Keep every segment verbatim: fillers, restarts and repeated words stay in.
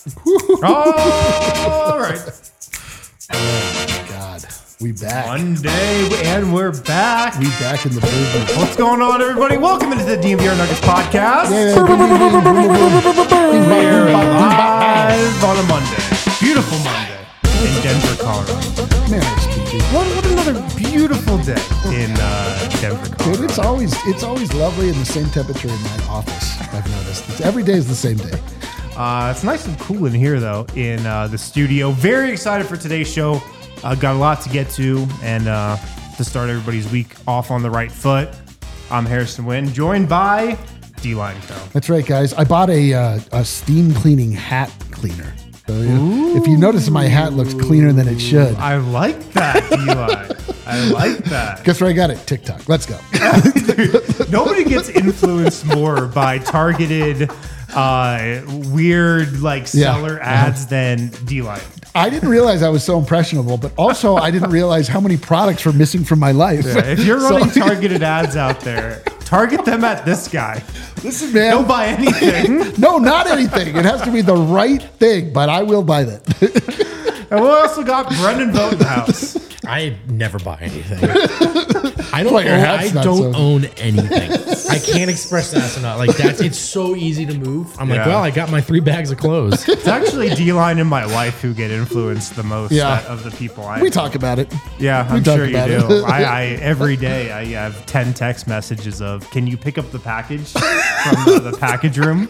All right. Oh my God. We back. Monday, and we're back. We back in the business. What's going on, everybody? Welcome into the D M V R Nuggets podcast. Yeah. We're live on a Monday. Beautiful Monday in Denver, Colorado. Man, speaking. What, what another beautiful day in uh, Denver, Colorado. Dude, it's always it's always lovely and the same temperature in my office. I've noticed. It's, every day is the same day. Uh, it's nice and cool in here, though, in uh, the studio. Very excited for today's show. Uh, got a lot to get to, and uh, to start everybody's week off on the right foot. I'm Harrison Wynn, joined by D-Line Co. That's right, guys. I bought a uh, a steam cleaning hat cleaner. So, yeah, if you notice, my hat looks cleaner than it should. I like that, D-Line. I like that. Guess where I got it? TikTok. Let's go. Dude, nobody gets influenced more by targeted, uh, weird, like, seller Yeah. ads than D-Line. I didn't realize I was so impressionable, but also I didn't realize how many products were missing from my life. Yeah, if you're So- running targeted ads out there, target them at this guy. Listen, man. Don't buy anything. No, not anything. It has to be the right thing, but I will buy that. And we also got Brendan Vogt in the house. I never buy anything. I don't. Why, your own, hat's I not don't so- own anything. I can't express that enough. Like that's. It's so easy to move. I'm like, Yeah. well, I got my three bags of clothes. It's actually D-Line and my wife who get influenced the most Yeah. out of the people I We talk about it. Yeah, we I'm talk sure you about do. it. I, I every day I have ten text messages of, "Can you pick up the package from the, the package room?"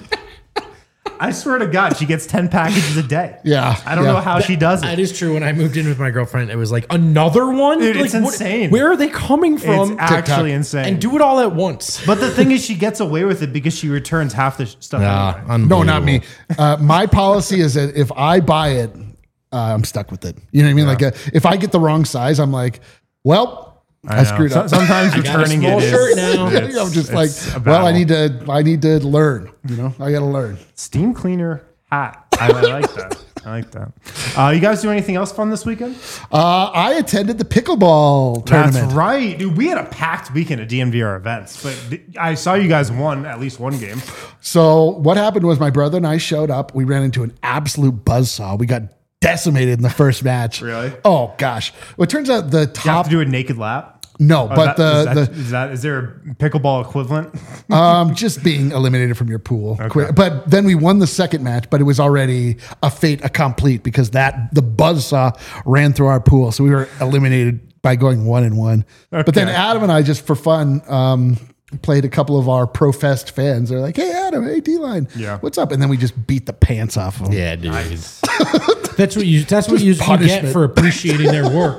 I swear to God, she gets ten packages a day. Yeah, I don't yeah. know how she does That it. is true. When I moved in with my girlfriend, it was like another one. Dude, Like, it's what- insane. Where are they coming It's from? actually insane. and do it all at once. But the thing is, she gets away with it because she returns half the sh- stuff. Ah, anyway. No, not me. Uh, my policy is that if I buy it, uh, I'm stuck with it. You know what I mean? Like, uh, if I get the wrong size, I'm like, well, I, know. screwed So- up. Sometimes I got a returning small it is. shirt now. it's- I'm just it's like, a well, I battle. need to, I need to learn. You know, I got to learn. Steam cleaner hat. I, I like that. I like that. Uh, you guys do anything else fun this weekend? Uh, I attended the pickleball tournament. That's right, dude. We had a packed weekend at D M V R events, but th- I saw you guys won at least one game. So what happened was my brother and I showed up. We ran into an absolute buzzsaw. We got decimated in the first match. Really? Oh gosh. Well, it turns out the You have top to do a naked lap. no, Oh, but that- is, that, the is that is there a pickleball equivalent? the um just being eliminated from your pool. Quick. But then we won the second match, but it was already a fait accompli because that the buzzsaw ran through our pool, so we were eliminated by going one and one. But then Okay. Adam and I just for fun um played a couple of our professed fans. They're like, "Hey Adam, hey D-Line, Yeah. what's up?" And then we just beat the pants off of them. Yeah, dude. That's what you. That's what you, you get punishment. for appreciating their work.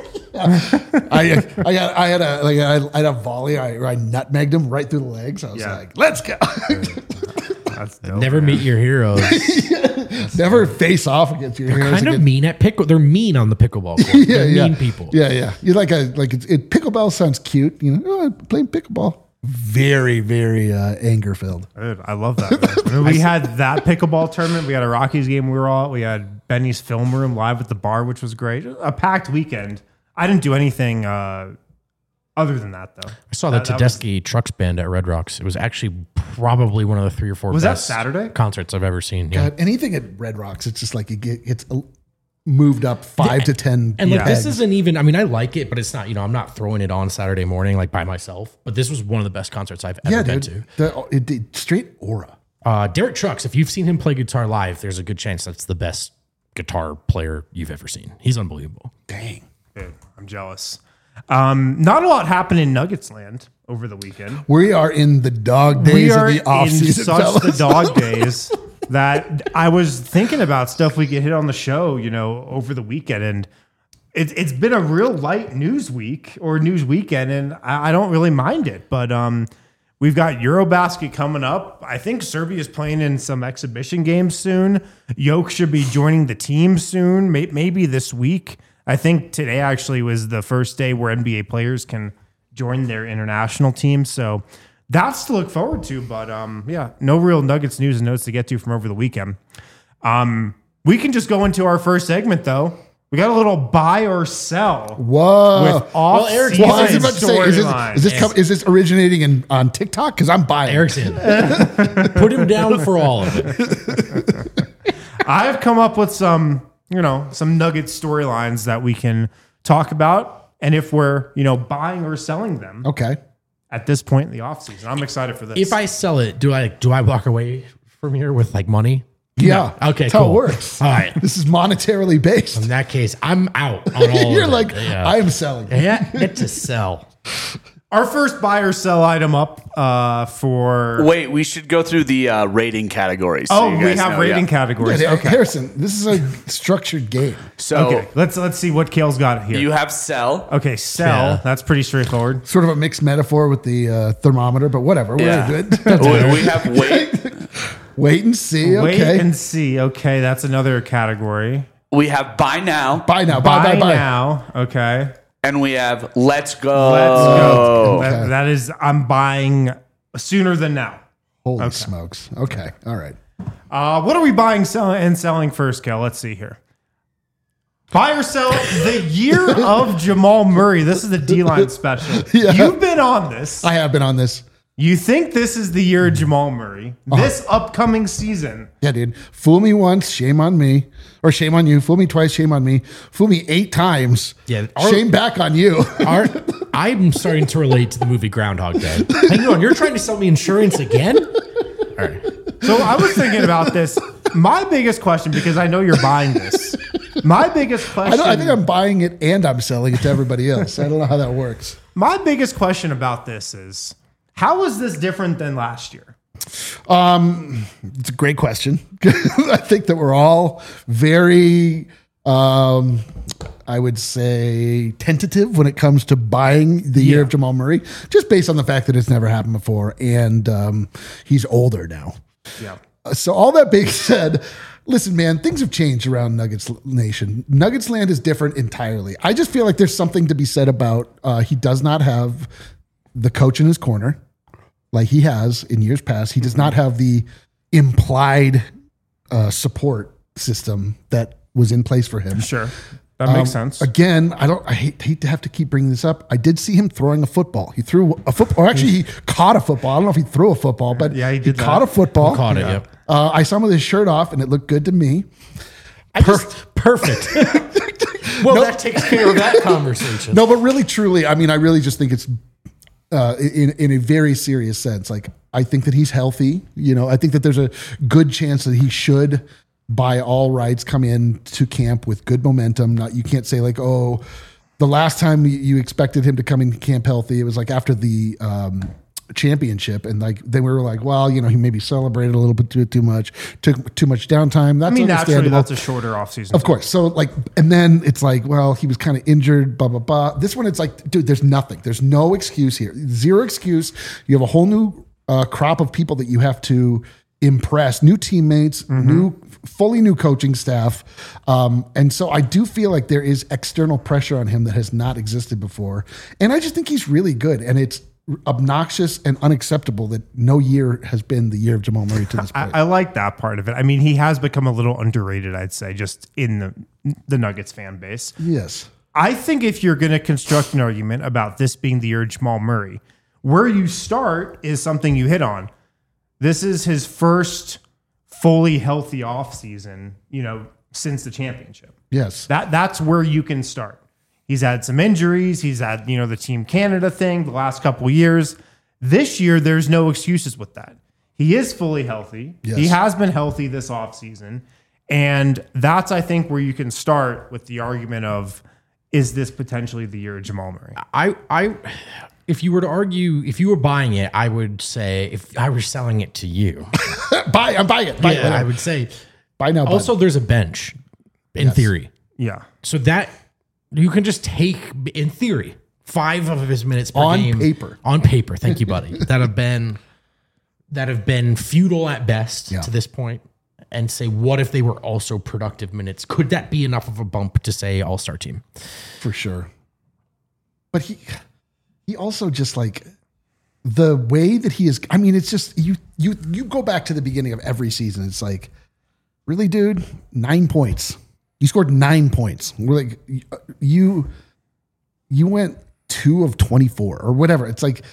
I I got I had a like I had a volley. I, I nutmegged him right through the legs. I was Yeah. like, "Let's go!" That's dope, Never man. meet your heroes. Never face off against your heroes. Kind of again. mean at pickle. They're mean on the pickleball court. Yeah, They're yeah. mean people. Yeah, yeah. You like a like it's, it. Pickleball sounds cute. You know, oh, I'm playing pickleball. Very, very uh, anger filled. Dude, I love that. Man. I mean, we had that pickleball tournament. We had a Rockies game we were all. We had Benny's film room live at the bar, which was great. A packed weekend. I didn't do anything uh, other than that, though. I saw the That- that was- Tedeschi Trucks Band at Red Rocks. It was actually probably one of the three or four Was that best Saturday? concerts I've ever seen. Yeah. God, anything at Red Rocks, it's just like it get, it's uh, moved up five to ten. And like Yeah. this isn't even. I mean, I like it, but it's not. You know, I'm not throwing it on Saturday morning like by myself. But this was one of the best concerts I've ever yeah, been dude. to. The, it, it, straight aura. Uh, Derek Trucks. If you've seen him play guitar live, there's a good chance that's the best guitar player you've ever seen. He's unbelievable. Dang. Dude, I'm jealous. Um, not a lot happened in Nuggets land over the weekend. We are in the dog days We of are the off in season. such fellas. the dog days that I was thinking about stuff we could hit on the show, you know, over the weekend, and it's it's been a real light news week or news weekend, and I, I don't really mind it. But um, we've got Eurobasket coming up. I think Serbia is playing in some exhibition games soon. Yoke should be joining the team soon, may, maybe this week. I think today actually was the first day where N B A players can join their international team. So that's to look forward to. But um, yeah, no real Nuggets news and notes to get to from over the weekend. Um, we can just go into our first segment, though. We got a little buy or sell Whoa. with off Eric's- season Well, I was about to say, is this, storylines. is this, com- is this originating in, on TikTok? Because I'm buying. Eric's in. Put him down for all of it. I've come up with some, you know, some nugget storylines that we can talk about. And if we're, you know, buying or selling them Okay. at this point in the offseason, I'm excited for this. If I sell it, do I do I walk away from here with like money? Yeah. No. Okay, That's how cool. it works. All right. This is monetarily based. In that case, I'm out on all You're of like, it. Yeah. I am selling. yeah, get to sell. Our first buy or sell item up uh, for. Wait, we should go through the uh, rating categories. so Oh, you we guys have know, rating yeah. categories. Yeah, Okay. Harrison, this is a structured game. So Okay. Let's let's see what Kale's got here. you have sell. okay, sell. Yeah. That's pretty straightforward. Sort of a mixed metaphor with the uh, thermometer, but whatever. We're Yeah. good. we, we have wait. Wait and see. Wait Okay. and see. Okay, that's another category. We have buy now, Buy now. Buy, buy, Buy buy. now. Okay. and we have let's go. Let's go. Okay. That, that is, I'm buying sooner than now. Holy smokes. Okay. All right. Uh, what are we buying, selling, and selling first, Kel? Let's see here. Buy or sell the year of Jamal Murray. This is the D-line special. Yeah. You've been on this. I have been on this. You think this is the year of Jamal Murray? Uh-huh. This upcoming season. Yeah, dude. Fool me once, shame on me. Or shame on you. Fool me twice, shame on me. Fool me eight times. Yeah, our- Shame back on you. Our, I'm starting to relate to the movie Groundhog Day. Hang on, you're trying to sell me insurance again? All right. So I was thinking about this. My biggest question, because I know you're buying this. My biggest question. I, don't, I think I'm buying it and I'm selling it to everybody else. I don't know how that works. My biggest question about this is, how is this different than last year? It's a great question. I think that we're all very, um, I would say, tentative when it comes to buying the year Yeah. of Jamal Murray, just based on the fact that it's never happened before. And um, he's older now. Yeah. So all that being said, listen, man, things have changed around Nuggets Nation. Nuggets land is different entirely. I just feel like there's something to be said about uh, he does not have the coach in his corner like he has in years past. He does not have the implied uh, support system that was in place for him. Sure. That makes Um, sense. Again, I don't. I hate, hate to have to keep bringing this up. I did see him throwing a football. He threw a football, or actually, he caught a football. I don't know if he threw a football, but Yeah, he did that. caught a football. Caught it, yep. Uh, I saw him with his shirt off, and it looked good to me. I just, perfect. well, that takes care of that conversation. No, but really, truly, I mean, I really just think it's uh, in in a very serious sense. Like, I think that he's healthy. You know, I think that there's a good chance that he should, by all rights, come in to camp with good momentum. Not you can't say like, oh, the last time you- you expected him to come in camp healthy, it was like after the um, championship, and like then we were like, well, you know, he maybe celebrated a little bit too, too much, took too much downtime. That's I mean, naturally, understandable. that's a shorter offseason. Of course. So like, and then it's like, well, he was kind of injured, blah, blah, blah. This one, it's like, dude, there's nothing. There's no excuse here. Zero excuse. You have a whole new uh, crop of people that you have to impress, new teammates, new, fully new coaching staff. Um, and so I do feel like there is external pressure on him that has not existed before. And I just think he's really good. And it's obnoxious and unacceptable that no year has been the year of Jamal Murray to this I, point. I like that part of it. I mean, he has become a little underrated, I'd say, just in the the Nuggets fan base. yes. I think if you're going to construct an argument about this being the year of Jamal Murray, where you start is something you hit on. This is his first fully healthy offseason, you know, since the championship. Yes. That that's where you can start. He's had some injuries. He's had, you know, the Team Canada thing the last couple of years. This year, there's no excuses with that. He is fully healthy. Yes. He has been healthy this offseason. And that's, I think, where you can start with the argument of, is this potentially the year of Jamal Murray? I, I, if you were to argue, if you were buying it, I would say, if I were selling it to you, Buy, I'm buying it. Buy it. yeah, I would say. Buy now. Buy Also, there's a bench, in theory, Yeah. so that you can just take, in theory, five of his minutes per On game paper. On paper, thank you, buddy. that have been that have been futile at best Yeah. to this point, and say, what if they were also productive minutes? Could that be enough of a bump to say all star team? for sure. But he he also just like the way that he is. I mean, it's just you you you go back to the beginning of every season. It's like, really, dude, nine points. You scored nine points. We're like, you you went two of twenty-four or whatever. It's like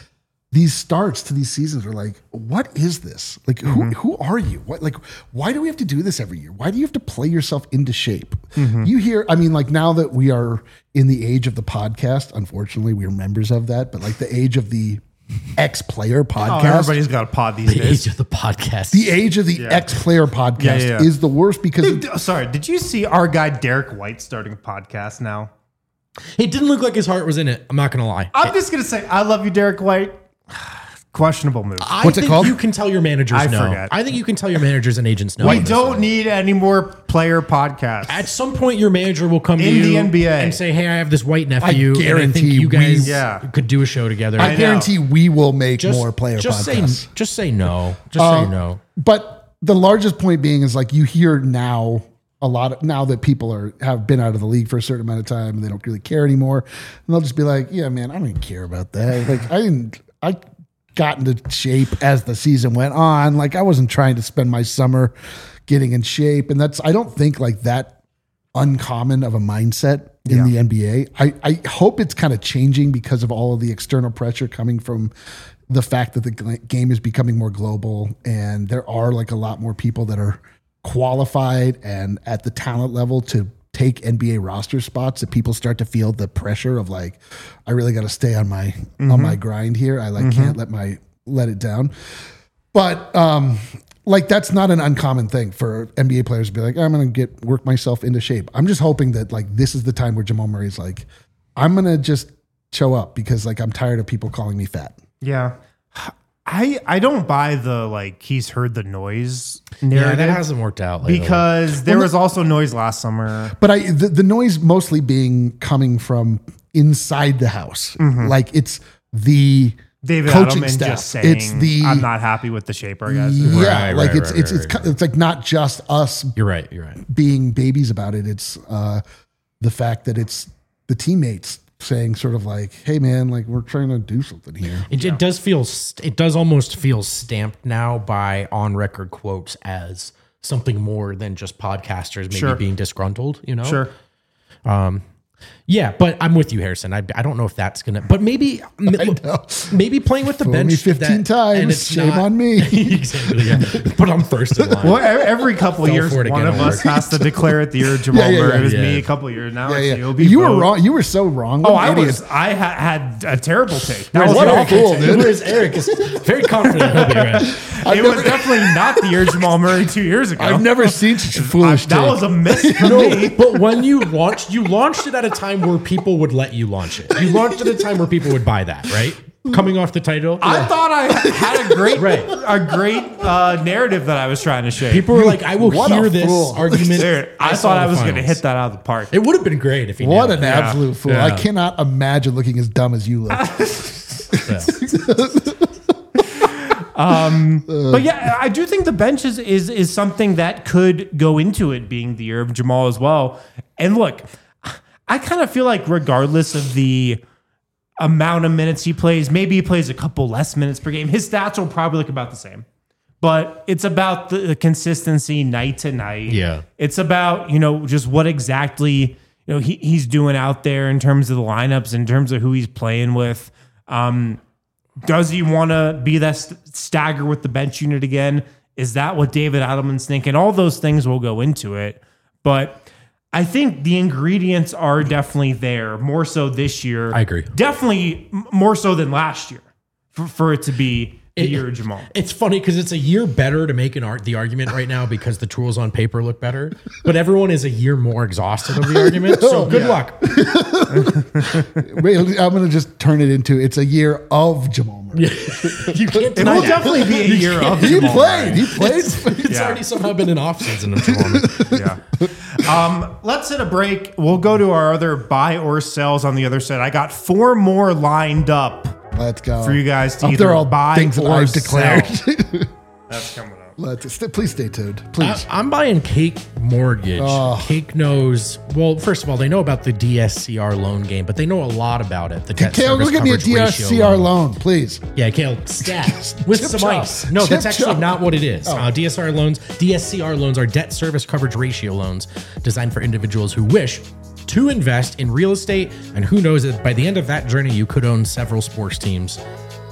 these starts to these seasons are like, what is this? Like, who Mm-hmm. who are you? What like, why do we have to do this every year? Why do you have to play yourself into shape? Mm-hmm. You hear, I mean, like now that we are in the age of the podcast, unfortunately, we are members of that, but like the age of the ex-player Oh, podcast. everybody's got a pod these The days. age of the podcast. the age of the Yeah. ex-player podcast Yeah, yeah, yeah. is the worst because Hey, d- sorry, did you see our guy Derek White starting a podcast now? It didn't look like his heart was in it. I'm not gonna lie. I'm just gonna say I love you, Derek White. Questionable move. I What's it think called? You can tell your managers I no. forget. I think you can tell your managers and agents no. we on this don't one. need any more player podcasts. At some point, your manager will come to In you the N B A. and say, "Hey, I have this white nephew. and I guarantee think you we- guys Yeah. could do a show together." I know. guarantee we will make just, more player just podcasts. say, just say no. Just Uh, say no. But the largest point being is like you hear now a lot of now that people are have been out of the league for a certain amount of time and they don't really care anymore, and they'll just be like, "Yeah, man, I don't even care about that. Like, I didn't. I got into shape as the season went on. Like, I wasn't trying to spend my summer getting in shape, and that's I don't think like that uncommon of a mindset in Yeah. the N B A. I I hope it's kind of changing because of all of the external pressure coming from the fact that the gl- game is becoming more global and there are like a lot more people that are qualified and at the talent level to take N B A roster spots, that people start to feel the pressure of like, I really got to stay on my on my grind here. I like can't let my let it down. But um like that's not an uncommon thing for N B A players to be like, I'm gonna get work myself into shape. I'm just hoping that like this is the time where Jamal Murray's like, I'm gonna just show up because like I'm tired of people calling me fat. Yeah. I I don't buy the like he's heard the noise Yeah, narrative that hasn't worked out lately. because there was also noise last summer. But I the, the noise mostly being coming from inside the house. Like it's the David coaching Edelman staff. just saying, It's the I'm not happy with the shape our guys. are." yeah, Right, like right, it's right, it's right, it's right, it's like not just us you're right. You're right. being babies about it. It's uh, the fact that it's the teammates saying sort of like, "Hey, man, like we're trying to do something here." It, it does feel. st- It does almost feel stamped now by on record quotes as something more than just podcasters maybe Sure. being disgruntled. You know. Sure. Yeah, but I'm with you, Harrison. I, I don't know if that's gonna. But maybe know. maybe playing with the Fooled bench me fifteen that- and times. it's Shame not- on me. exactly. Yeah. But I'm first in line. Well, e- every couple Fell years, for it one again of at us work. has to declare it the year of Jamal Yeah, yeah, Murray. yeah. It was Yeah. me a couple years now. Yeah, it's yeah. you. It'll be You were both. wrong. You were so wrong. Oh, What I an idiot. was. I ha- had a terrible take. That was What your a awful fool, take. dude. Whereas Eric is very confident. He'll be right. It was definitely not the year Jamal Murray two years ago. I've never seen such a foolish that take. was a miss for No, me. but when you launched, you launched it at a time where people would let you launch it. You launched at a time where people would buy that, right? Coming off the title, I thought I had a great, Right. a great uh, narrative that I was trying to shape. people were like, "I will What a hear this fool. argument." Dude, I, saw thought the I was going to finals. hit that out of the park. It would have been great if he. What nailed an it. absolute fool. I Yeah. cannot imagine looking as dumb as you look. Yeah. But yeah, I do think the bench is, is is something that could go into it being the year of Jamal as well. And look, I kind of feel like regardless of the amount of minutes he plays, maybe he plays a couple less minutes per game, his stats will probably look about the same. But it's about the, the consistency night to night. Yeah. It's about, you know, just what exactly, you know, he, he's doing out there in terms of the lineups, in terms of who he's playing with. Um, Does he want to be that st- stagger with the bench unit again? Is that what David Adelman's thinking? All those things will go into it. But I think the ingredients are definitely there, more so this year. I agree. Definitely m- more so than last year for, for it to be the It- year of Jamal. It's funny because it's a year better to make an art the argument right now because the tools on paper look better, but everyone is a year more exhausted of the argument. So good luck. Wait, I'm going to just turn it into it's a year of Jamal Murray. You can't It deny will that. definitely be a year of He Jamal played. Murray. He played. It's Yeah. already somehow been an offseason of Jamal Murray. Yeah. Um, let's hit a break. We'll go to our other buy or sells on the other side. I got four more lined up Let's go. for you guys to Up either there all buy things that or I've declared. sell. That's coming up. Let's st- please stay tuned. Please. I, I'm buying Cake Mortgage. Oh. Cake knows, well, first of all, they know about the D S C R loan game, but they know a lot about it. The debt Kale, service go get me a coverage D R ratio C R loan, please. Yeah, Kale, stat with Chip some chop. ice. No, Chip that's actually chop. Oh. not what it is. Uh, D S R loans, D S C R loans are debt service coverage ratio loans designed for individuals who wish to invest in real estate. And who knows that by the end of that journey, you could own several sports teams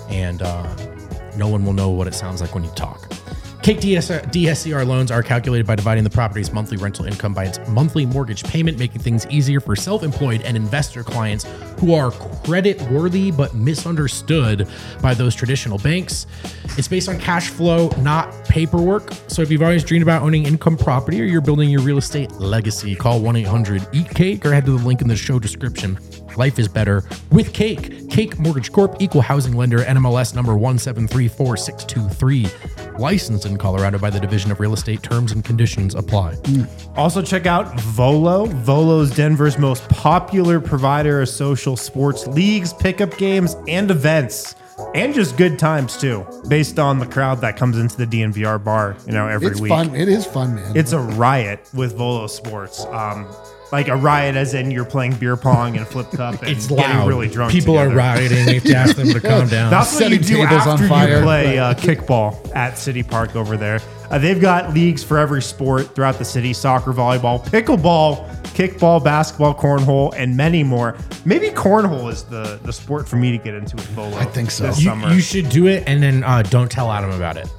and uh, no one will know what it sounds like when you talk. Cake D S C R loans are calculated by dividing the property's monthly rental income by its monthly mortgage payment, making things easier for self-employed and investor clients who are credit-worthy but misunderstood by those traditional banks. It's based on cash flow, not paperwork. So if you've always dreamed about owning income property or you're building your real estate legacy, call one eight hundred eat cake or head to the link in the show description. Life is better with Cake. Cake Mortgage Corp, equal housing lender, N M L S number one seven three four six two three. Licensed in Colorado by the Division of Real Estate. Terms and conditions apply. Also check out Volo. Volo's Denver's most popular provider of social sports leagues, pickup games, and events. And just good times too, based on the crowd that comes into the D N V R bar, you know, every It's week. fun. It is fun, man. It's a riot with Volo Sports. Um, like a riot as in you're playing beer pong and flip cup and It's getting loud. really drunk People together. are rioting. We have to ask them to calm down. That's what you Setting do tables on after you fire. play uh, kickball at City Park over there. Uh, they've got leagues for every sport throughout the city: soccer, volleyball, pickleball, kickball, basketball, cornhole, and many more. Maybe cornhole is the, the sport for me to get into with Volo. I think so. This You, summer. you should do it and then uh, don't tell Adam about it.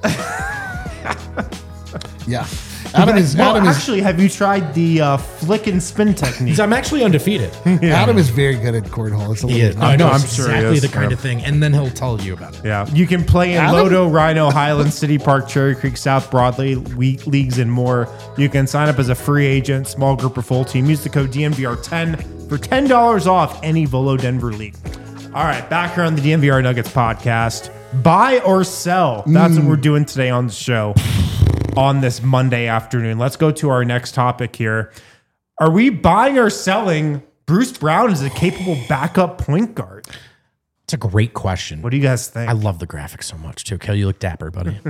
yeah. Adam is well, Adam is actually, have you tried the uh, flick and spin technique? 'Cause I'm actually undefeated. Adam is very good at cornhole. It's a He little is. I know. I'm I'm sure he exactly is. the kind Yeah. of thing. And then he'll tell you about it. Yeah, you can play in Adam? Lodo, Rhino, Highland, City Park, Cherry Creek, South Broadway we- leagues, and more. You can sign up as a free agent, small group or full team. Use the code D N V R ten for ten dollars off any Volo Denver league. All right, back here on the D N V R Nuggets podcast. Buy or sell. That's what we're doing today on the show on this Monday afternoon. Let's go to our next topic here. Are we buying or selling Bruce Brown as a capable backup point guard? It's a great question. What do you guys think? I love the graphics so much too. Kelly, you look dapper, buddy.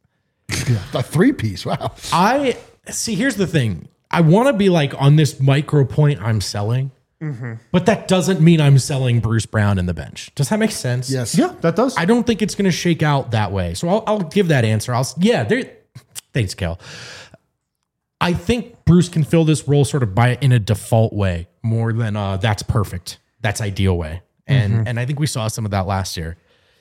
a three piece. Wow. I see. Here's the thing. I want to be like on this micro point I'm selling, but that doesn't mean I'm selling Bruce Brown in the bench. Does that make sense? Yes. Yeah, that does. I don't think it's going to shake out that way. So I'll, I'll give that answer. I'll s- yeah. There. Thanks, Kel. I think Bruce can fill this role sort of by in a default way more than uh, that's perfect. That's ideal way. And and I think we saw some of that last year.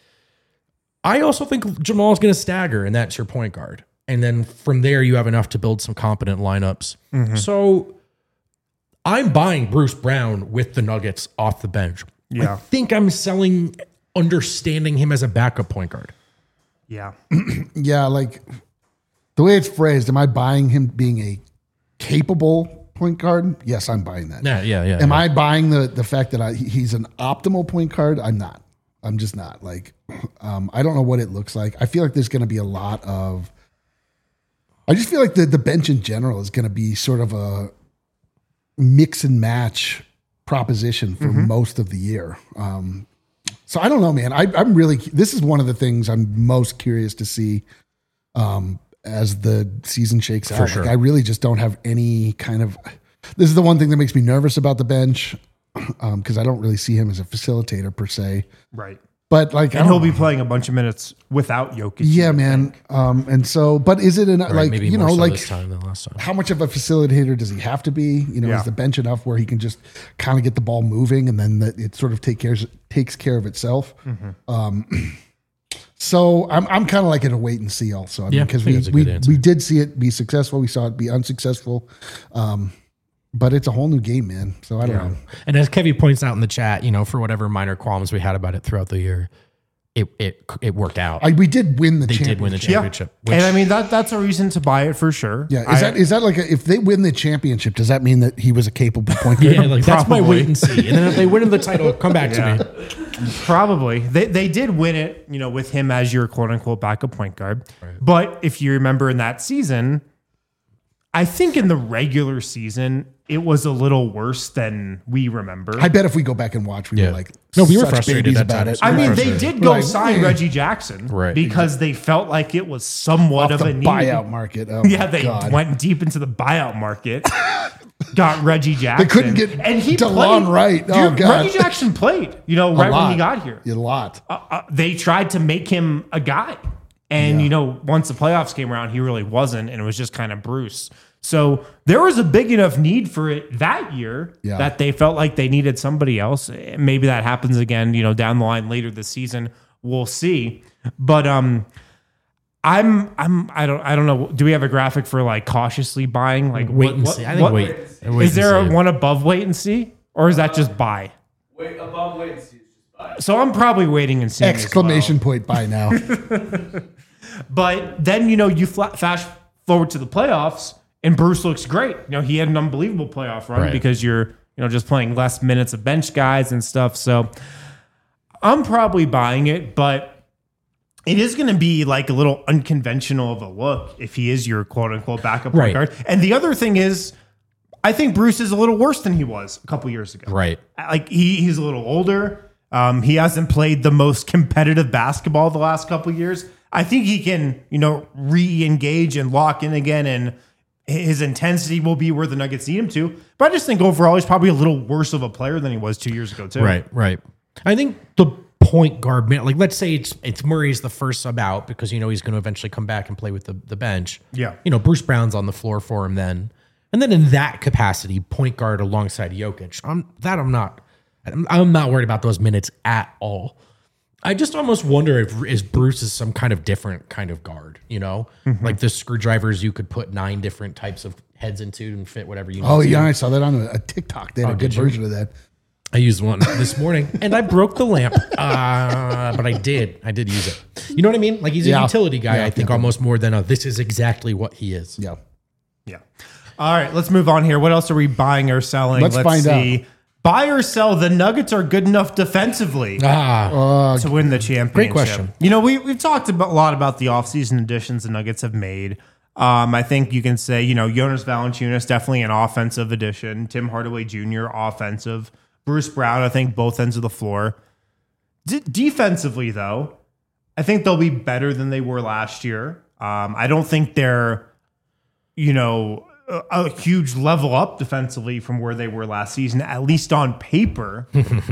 I also think Jamal is going to stagger, and that's your point guard. And then from there, you have enough to build some competent lineups. So I'm buying Bruce Brown with the Nuggets off the bench. Yeah. I think I'm selling understanding him as a backup point guard. Yeah. Yeah, like the way it's phrased, am I buying him being a capable point guard? Yes, I'm buying that. Yeah, yeah, yeah. Am yeah. I buying the the fact that I, he's an optimal point guard? I'm not. I'm just not. Like, um, I don't know what it looks like. I feel like there's going to be a lot of. I just feel like the the bench in general is going to be sort of a mix and match proposition for most of the year. Um, so I don't know, man. I, I'm really. This is one of the things I'm most curious to see. Um, as the season shakes out. sure. Like, I really just don't have any kind of, this is the one thing that makes me nervous about the bench. Um, cause I don't really see him as a facilitator per se, Right. but like, I And he'll don't- be playing a bunch of minutes without Jokic. yeah, man. Um, and so, but is it an, Right, like, maybe you more know, so like this time than last time. how much of a facilitator does he have to be? You know, Yeah. is the bench enough where he can just kind of get the ball moving and then that it sort of take cares, takes care of itself? Um, So I'm I'm kind of like in a wait and see also. I mean, Yeah, I because think we that's a we, good answer. we did see it be successful. We saw it be unsuccessful. Um, but it's a whole new game, man. So I don't know. And as Kevy points out in the chat, you know, for whatever minor qualms we had about it throughout the year, it it it worked out. I, we did win the they championship. did win the Yeah. championship. Which, And I mean, that that's a reason to buy it for sure. Yeah, is I- that is that like a, if they win the championship, does that mean that he was a capable point guard? yeah, like that's my Probably. wait and see. And then if they win the title, come back Yeah. to me. Probably. They they did win it, you know, with him as your quote unquote backup point guard. But if you remember in that season, I think in the regular season, it was a little worse than we remember. I bet if we go back and watch, we Yeah. were like, No, we were such frustrated babies that about time. it. I we mean, were they frustrated. did go Like, sign eh. Reggie Jackson Right. because they felt like it was somewhat off of the a need. buyout market. Oh Yeah, my they God. went deep into the buyout market. Got Reggie Jackson. couldn't get and he DeLon played. Wright. Oh, Dude, God. Reggie Jackson played. You know, right when he got here. A lot. Uh, uh, they tried to make him a guy. And, Yeah. you know, once the playoffs came around, he really wasn't. And it was just kind of Bruce. So there was a big enough need for it that year Yeah. that they felt like they needed somebody else. Maybe that happens again, you know, down the line later this season. we'll see. But um, I'm I'm I don't I don't know. Do we have a graphic for like cautiously buying? Like Wait what- and what- see. I think what- wait. wait Is there and a see. one above wait and see, or is that just buy? Wait, above wait and see is just buy. So I'm probably waiting and seeing. as well. Exclamation point by now. But then, you know, you fla- fast forward to the playoffs and Bruce looks great. You know, he had an unbelievable playoff run Right. because you're, you know, just playing less minutes of bench guys and stuff. So I'm probably buying it, but it is going to be like a little unconventional of a look if he is your quote unquote backup point Right. guard. And the other thing is, I think Bruce is a little worse than he was a couple years ago. Right. Like he, he's a little older. Um, he hasn't played the most competitive basketball the last couple of years. I think he can, you know, re-engage and lock in again, and his intensity will be where the Nuggets need him to. But I just think overall he's probably a little worse of a player than he was two years ago, too. Right, right. I think the point guard, man, like let's say it's it's Murray's the first sub out because you know he's going to eventually come back and play with the, the bench. Yeah. You know, Bruce Brown's on the floor for him then. And then in that capacity, point guard alongside Jokic. I'm that I'm not I'm, I'm not worried about those minutes at all. I just almost wonder if is Bruce is some kind of different kind of guard, you know? Mm-hmm. Like the screwdrivers you could put nine different types of heads into and fit whatever you need. Oh to. yeah, I saw that on a, a TikTok. They had a good did you? version of that. I used one this morning and I broke the lamp. Uh, but I did. I did use it. You know what I mean? Like he's a Yeah. utility guy, Yeah, I think, yeah. almost more than a this is exactly what he is. Yeah. Yeah. All right, let's move on here. What else are we buying or selling? Let's find see. Buy or sell, the Nuggets are good enough defensively Ah, to win the championship. Great question. You know, we, we've talked about, a lot about the offseason additions the Nuggets have made. Um, I think you can say, you know, Jonas Valanciunas, definitely an offensive addition. Tim Hardaway Junior, offensive. Bruce Brown, I think both ends of the floor. D- defensively, though, I think they'll be better than they were last year. Um, I don't think they're, you know, a, a huge level up defensively from where they were last season, at least on paper.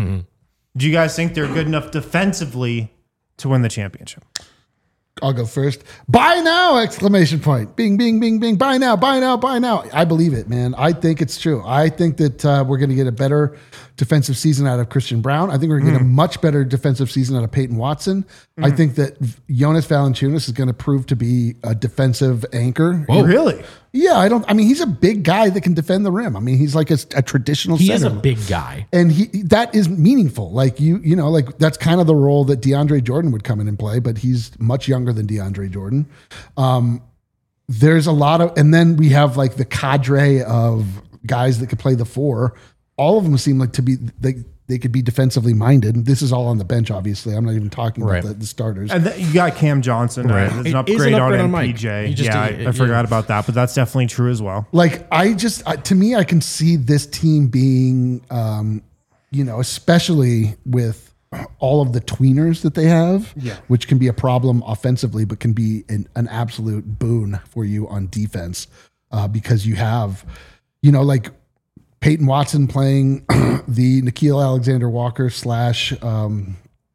Do you guys think they're good enough defensively to win the championship? I'll go first. Buy now! Exclamation point. Bing, bing, bing, bing. Buy now, buy now, buy now. I believe it, man. I think it's true. I think that uh, we're going to get a better defensive season out of Christian Brown. I think we're going to get a much better defensive season out of Peyton Watson. I think that Jonas Valanciunas is going to prove to be a defensive anchor. Really? Yeah, I don't. I mean, he's a big guy that can defend the rim. I mean, he's like a, a traditional. he center. is a big guy. And he that is meaningful. Like you, you know, like that's kind of the role that DeAndre Jordan would come in and play, but he's much younger than DeAndre Jordan. Um, there's a lot of, and then we have like the cadre of guys that could play the four. All of them seem like to be they they could be defensively minded. This is all on the bench, obviously. I'm not even talking Right. about the, the starters. And then you got Cam Johnson. Right. Uh, there's It an is upgrade, an upgrade on on Mike. M P J. He just- yeah, he- I, I forgot yeah. about that, but that's definitely true as well. Like I just uh, to me, I can see this team being, um, you know, especially with all of the tweeners that they have, Yeah. which can be a problem offensively, but can be an, an absolute boon for you on defense uh, because you have, you know, like Peyton Watson playing the Nickeil Alexander-Walker slash. Um,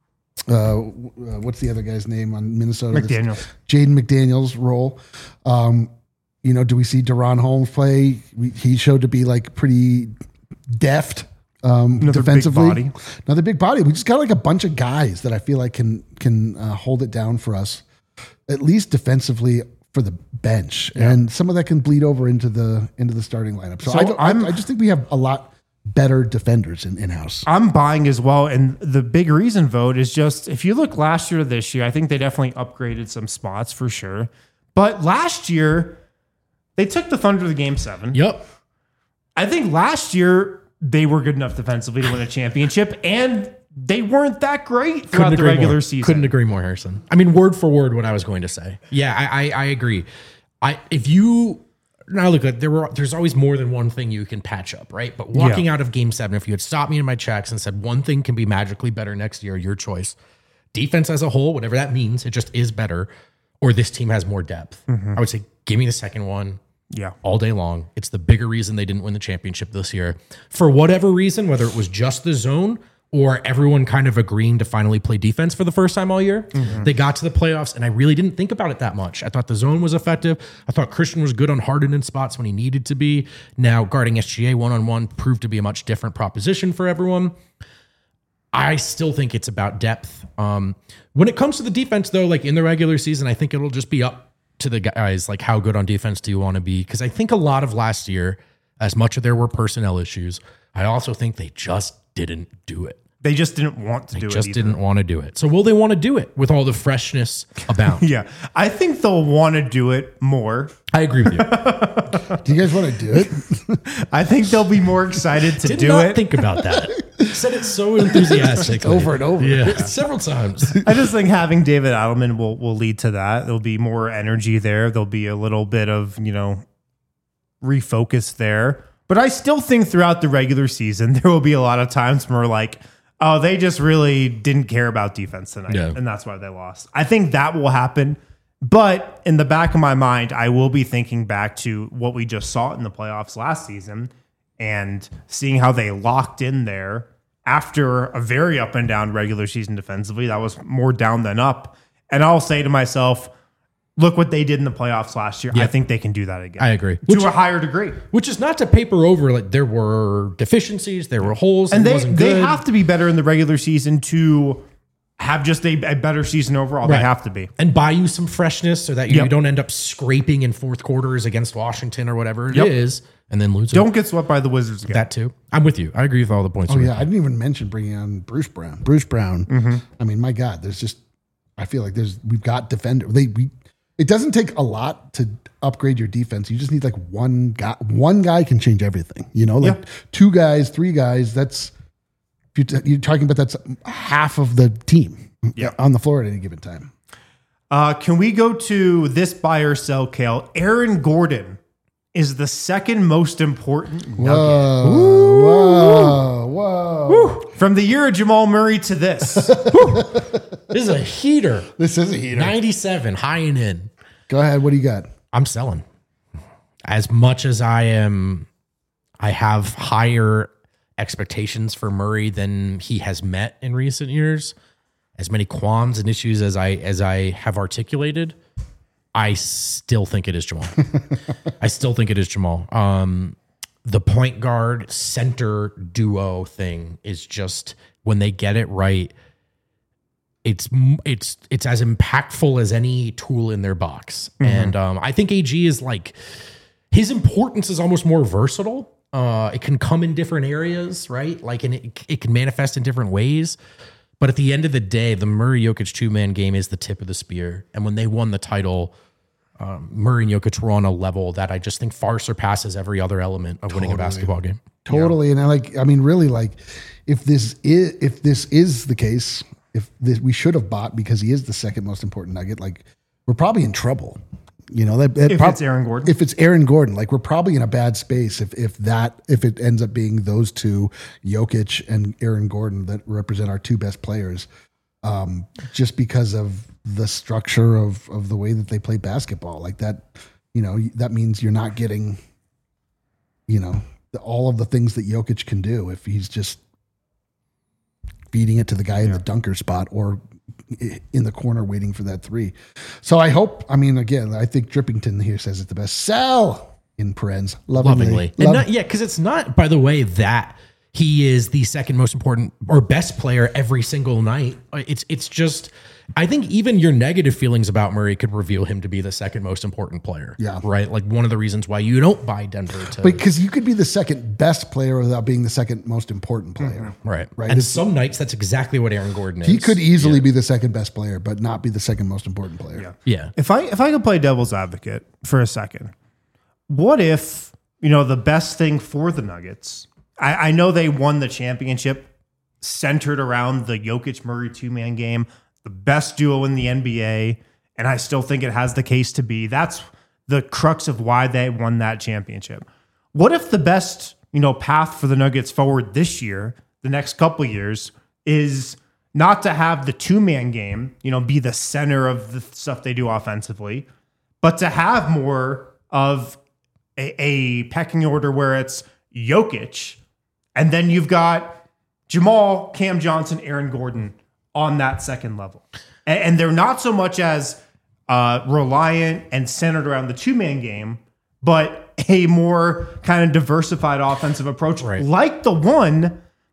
uh, what's the other guy's name on Minnesota? McDaniels. Jaden McDaniels role. Um, you know, do we see Deron Holmes play? We, he showed to be like pretty deft um, Another big defensively. body. Another big body. We just got like a bunch of guys that I feel like can can uh, hold it down for us, at least defensively for the bench, and some of that can bleed over into the into the starting lineup. So, So I, don't, I'm- I I just think we have a lot better defenders in in house. I'm buying as well. And the big reason vote is just if you look last year to this year, I think they definitely upgraded some spots for sure. But last year, they took the Thunder to game seven. Yep. I think last year they were good enough defensively to win a championship, and they weren't that great throughout the regular more. season. Couldn't agree more, Harrison. I mean, word for word, what I was going to say. Yeah, I, I, I agree. I if you now look at there were there's always more than one thing you can patch up, right? But walking Yeah. out of Game Seven, if you had stopped me in my tracks and said one thing can be magically better next year, your choice. Defense as a whole, whatever that means, it just is better. Or this team has more depth. I would say, give me the second one. Yeah. All day long. It's the bigger reason they didn't win the championship this year. For whatever reason, whether it was just the zone or everyone kind of agreeing to finally play defense for the first time all year, they got to the playoffs, and I really didn't think about it that much. I thought the zone was effective. I thought Christian was good on Harden in spots when he needed to be. Now, guarding S G A one-on-one proved to be a much different proposition for everyone. I still think it's about depth. Um, when it comes to the defense, though, like in the regular season, I think it'll just be up to the guys. Like, how good on defense do you want to be? Because I think a lot of last year, as much as there were personnel issues, I also think they just didn't do it. They just didn't want to They do it. just either. didn't want to do it. So will they want to do it with all the freshness abound? Yeah, I think they'll want to do it more. I agree with you. Do you guys want to do it? I think they'll be more excited to Did do not it. think about that. Said it so enthusiastically. Over and over. Yeah, several times. I just think having David Adelman will will lead to that. There'll be more energy there. There'll be a little bit of, you know, refocus there. But I still think throughout the regular season, there will be a lot of times where we're like, oh, they just really didn't care about defense tonight. Yeah. And that's why they lost. I think that will happen. But in the back of my mind, I will be thinking back to what we just saw in the playoffs last season and seeing how they locked in there after a very up and down regular season defensively. That was more down than up. And I'll say to myself, look what they did in the playoffs last year. Yeah. I think they can do that again. I agree. To Which, a higher degree. which is not to paper over, like there were deficiencies, there were holes, And it they, wasn't they good. have to be better in the regular season to have just a, a better season overall. Right. They have to be. and buy you some freshness so that you, Yep. you don't end up scraping in fourth quarters against Washington or whatever it Yep. is, and then lose. Don't get swept by the Wizards again. that too. I'm with you. I agree with all the points. Oh you yeah, I didn't even mention bringing on Bruce Brown. Bruce Brown. I mean, my God, there's just I feel like there's we've got defender. They we it doesn't take a lot to upgrade your defense. You just need like one guy. One guy can change everything. You know, like Yeah. two guys, three guys. That's if you're, t- you're talking about that's half of the team Yeah. on the floor at any given time. Uh, can we go to this buy or sell, Kale? Aaron Gordon is the second most important nugget. Whoa, whoa, whoa! From the year of Jamal Murray to this. This is a heater. This is a heater. ninety-seven, high and in. Go ahead. What do you got? I'm selling. As much as I am, I have higher expectations for Murray than he has met in recent years. As many qualms and issues as I as I have articulated, I still think it is Jamal. I still think it is Jamal. Um, the point guard center duo thing is just when they get it right, it's it's it's as impactful as any tool in their box. Mm-hmm. And um, I think A G is like his importance is almost more versatile. Uh, it can come in different areas, right? Like, and it it can manifest in different ways. But at the end of the day, the Murray Jokic two man game is the tip of the spear. And when they won the title, um, Murray and Jokic were on a level that I just think far surpasses every other element of winning a basketball game. Totally. And I like, I mean, really like if this is, if this is the case, if this, we should have bought because he is the second most important nugget, like we're probably in trouble, you know, that, that If prob- it's Aaron Gordon. if it's Aaron Gordon, like we're probably in a bad space. If, if that, if it ends up being those two, Jokic and Aaron Gordon, that represent our two best players, um, just because of the structure of, of the way that they play basketball, like that, you know, that means you're not getting, you know, the, all of the things that Jokic can do if he's just feeding it to the guy in the dunker spot or in the corner waiting for that three. So I hope, I mean, again, I think Drippington here says it the best. Sell in parens, lovingly. Lovingly. And Love- not, yeah, because it's not, by the way, that he is the second most important or best player every single night. It's it's just, I think even your negative feelings about Murray could reveal him to be the second most important player. Yeah. Right? Like one of the reasons why you don't buy Denver to. because you could be the second best player without being the second most important player. right. Right. And It's- some nights that's exactly what Aaron Gordon is. He could easily be the second best player, but not be the second most important player. Yeah. Yeah. If I if I could play devil's advocate for a second, what if, you know, the best thing for the Nuggets, I, I know they won the championship centered around the Jokic Murray two-man game, the best duo in the N B A, and I still think it has the case to be. That's the crux of why they won that championship. What if the best, you know, path for the Nuggets forward this year, the next couple of years, is not to have the two-man game, you know, be the center of the stuff they do offensively, but to have more of a, a pecking order where it's Jokic, and then you've got Jamal, Cam Johnson, Aaron Gordon on that second level. And, and they're not so much as uh, reliant and centered around the two-man game, but a more kind of diversified offensive approach, Right. like the one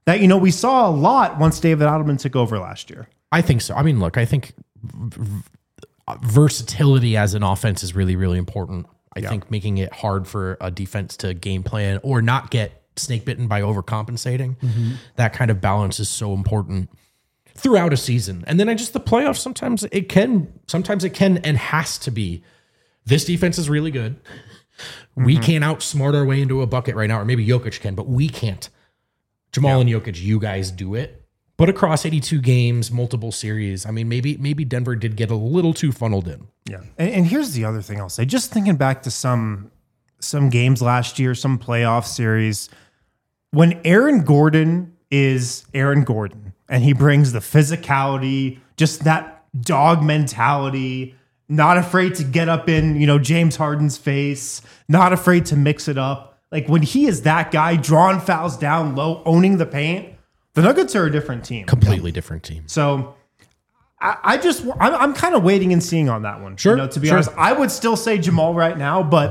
that, you know, we saw a lot once David Adelman took over last year. I think so. I mean, look, I think v- versatility as an offense is really, really important. I Yeah. think making it hard for a defense to game plan or not get snake bitten by overcompensating, Mm-hmm. that kind of balance is so important throughout a season. And then I just, the playoffs, sometimes it can, sometimes it can and has to be, this defense is really good. We Mm-hmm. can't outsmart our way into a bucket right now, or maybe Jokic can, but we can't. Jamal and Jokic, you guys do it. But across eighty-two games, multiple series, I mean, maybe maybe Denver did get a little too funneled in. Yeah. And, and here's the other thing I'll say. Just thinking back to some some games last year, some playoff series, when Aaron Gordon is Aaron Gordon and he brings the physicality, just that dog mentality, not afraid to get up in, you know, James Harden's face, not afraid to mix it up. Like when he is that guy, drawing fouls down low, owning the paint, the Nuggets are a different team. Completely different team. So I, I just, I'm, I'm kind of waiting and seeing on that one. Sure, You know, to be sure. honest, I would still say Jamal right now, but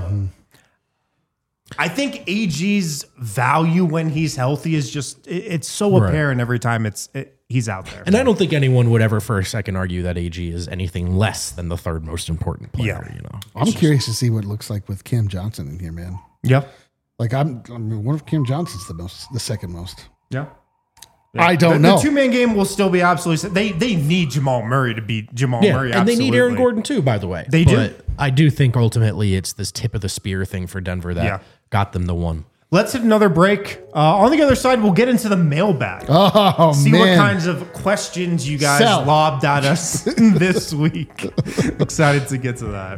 I think A G's value when he's healthy is just, it, it's so Right. apparent every time it's it, he's out there. And I don't think anyone would ever for a second argue that A G is anything less than the third most important player, Yeah. you know. I'm curious to see what it looks like with Cam Johnson in here, man. Yeah. Like I'm, I mean, what if Cam Johnson's the most, the second most? Yeah. I don't the, know. The two man game will still be absolutely. They they need Jamal Murray to beat Jamal Yeah, Murray. and they need Aaron absolutely. Gordon too, by the way. They do. But I do think ultimately it's this tip of the spear thing for Denver that Yeah. got them the one. Let's hit another break. Uh, on the other side, we'll get into the mailbag. Oh See man! what kinds of questions you guys Sell. lobbed at us this week. Excited to get to that.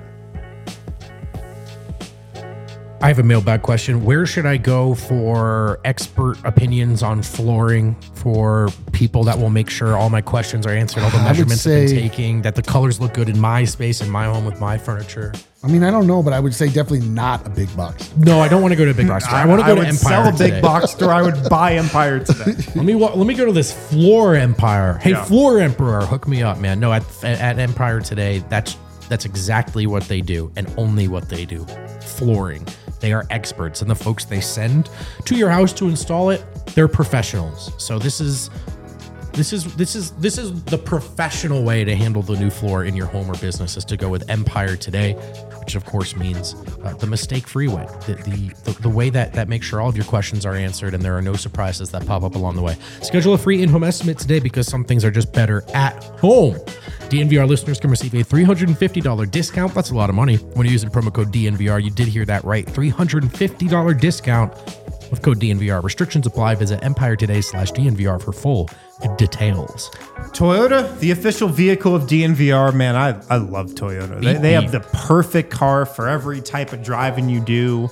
I have a mailbag question. Where should I go for expert opinions on flooring for people that will make sure all my questions are answered, all the I would measurements I've been say- taking, that the colors look good in my space, in my home with my furniture? I mean, I don't know, but I would say definitely not a big box. No, I don't want to go to a big box store. I want to go to would Empire sell a big today. box store. I would buy Empire today. Let me wa- let me go to this Floor Empire. Hey, Yeah. Floor Emperor, hook me up, man. No, at, at Empire today, that's that's exactly what they do, and only what they do. Flooring. They are experts, and the folks they send to your house to install it, they're professionals. So this is this is this is this is the professional way to handle the new floor in your home or business, is to go with Empire today, which of course means uh, the mistake-free way, the, the the the way that that makes sure all of your questions are answered and there are no surprises that pop up along the way. Schedule a free in-home estimate today, because some things are just better at home. D N V R listeners can receive a three hundred fifty dollars discount. That's a lot of money when you're using promo code D N V R. You did hear that right. three hundred fifty dollars discount with code D N V R. Restrictions apply. Visit Empire Today slash D N V R for full details. Toyota, the official vehicle of D N V R, man, I, I love Toyota. They, they have the perfect car for every type of driving you do.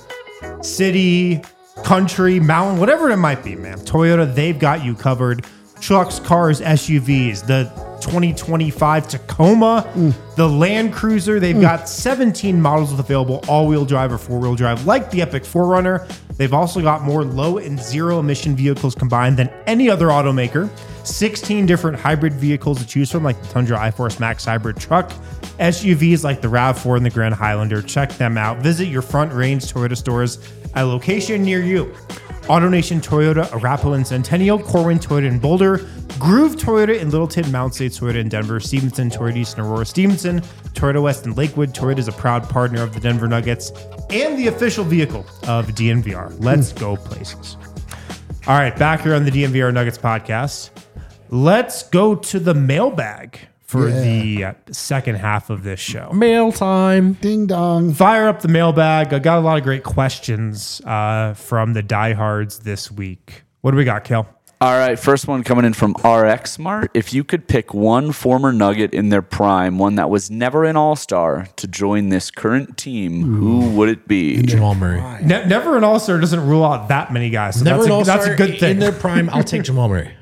City, country, mountain, whatever it might be, man. Toyota, they've got you covered. Trucks, cars, S U Vs, the twenty twenty-five Tacoma, the Land Cruiser. They've got seventeen models available, all-wheel drive or four-wheel drive, like the Epic four runner. They've also got more low and zero emission vehicles combined than any other automaker. sixteen different hybrid vehicles to choose from, like the Tundra iForce Max hybrid truck. S U Vs like the RAV four and the Grand Highlander. Check them out. Visit your Front Range Toyota stores at a location near you. AutoNation Toyota, Arapahoe and Centennial, Corwin Toyota in Boulder, Groove Toyota in Littleton, Mount State Toyota in Denver, Stevenson Toyota East and Aurora Stevenson, Toyota West in Lakewood. Toyota is a proud partner of the Denver Nuggets and the official vehicle of D N V R. Let's go places. All right, back here on the D N V R Nuggets podcast. Let's go to the mailbag for Yeah. the uh, second half of this show. Mail time. Ding dong. Fire up the mailbag. I got a lot of great questions uh, from the diehards this week. What do we got, Kel? All right, first one coming in from R X Smart. If you could pick one former Nugget in their prime, one that was never an All-Star, to join this current team, who would it be? Jamal Murray. Ne- never an All-Star doesn't rule out that many guys. So Never that's, an a, all-star that's a good thing. in their prime. I'll take Jamal Murray.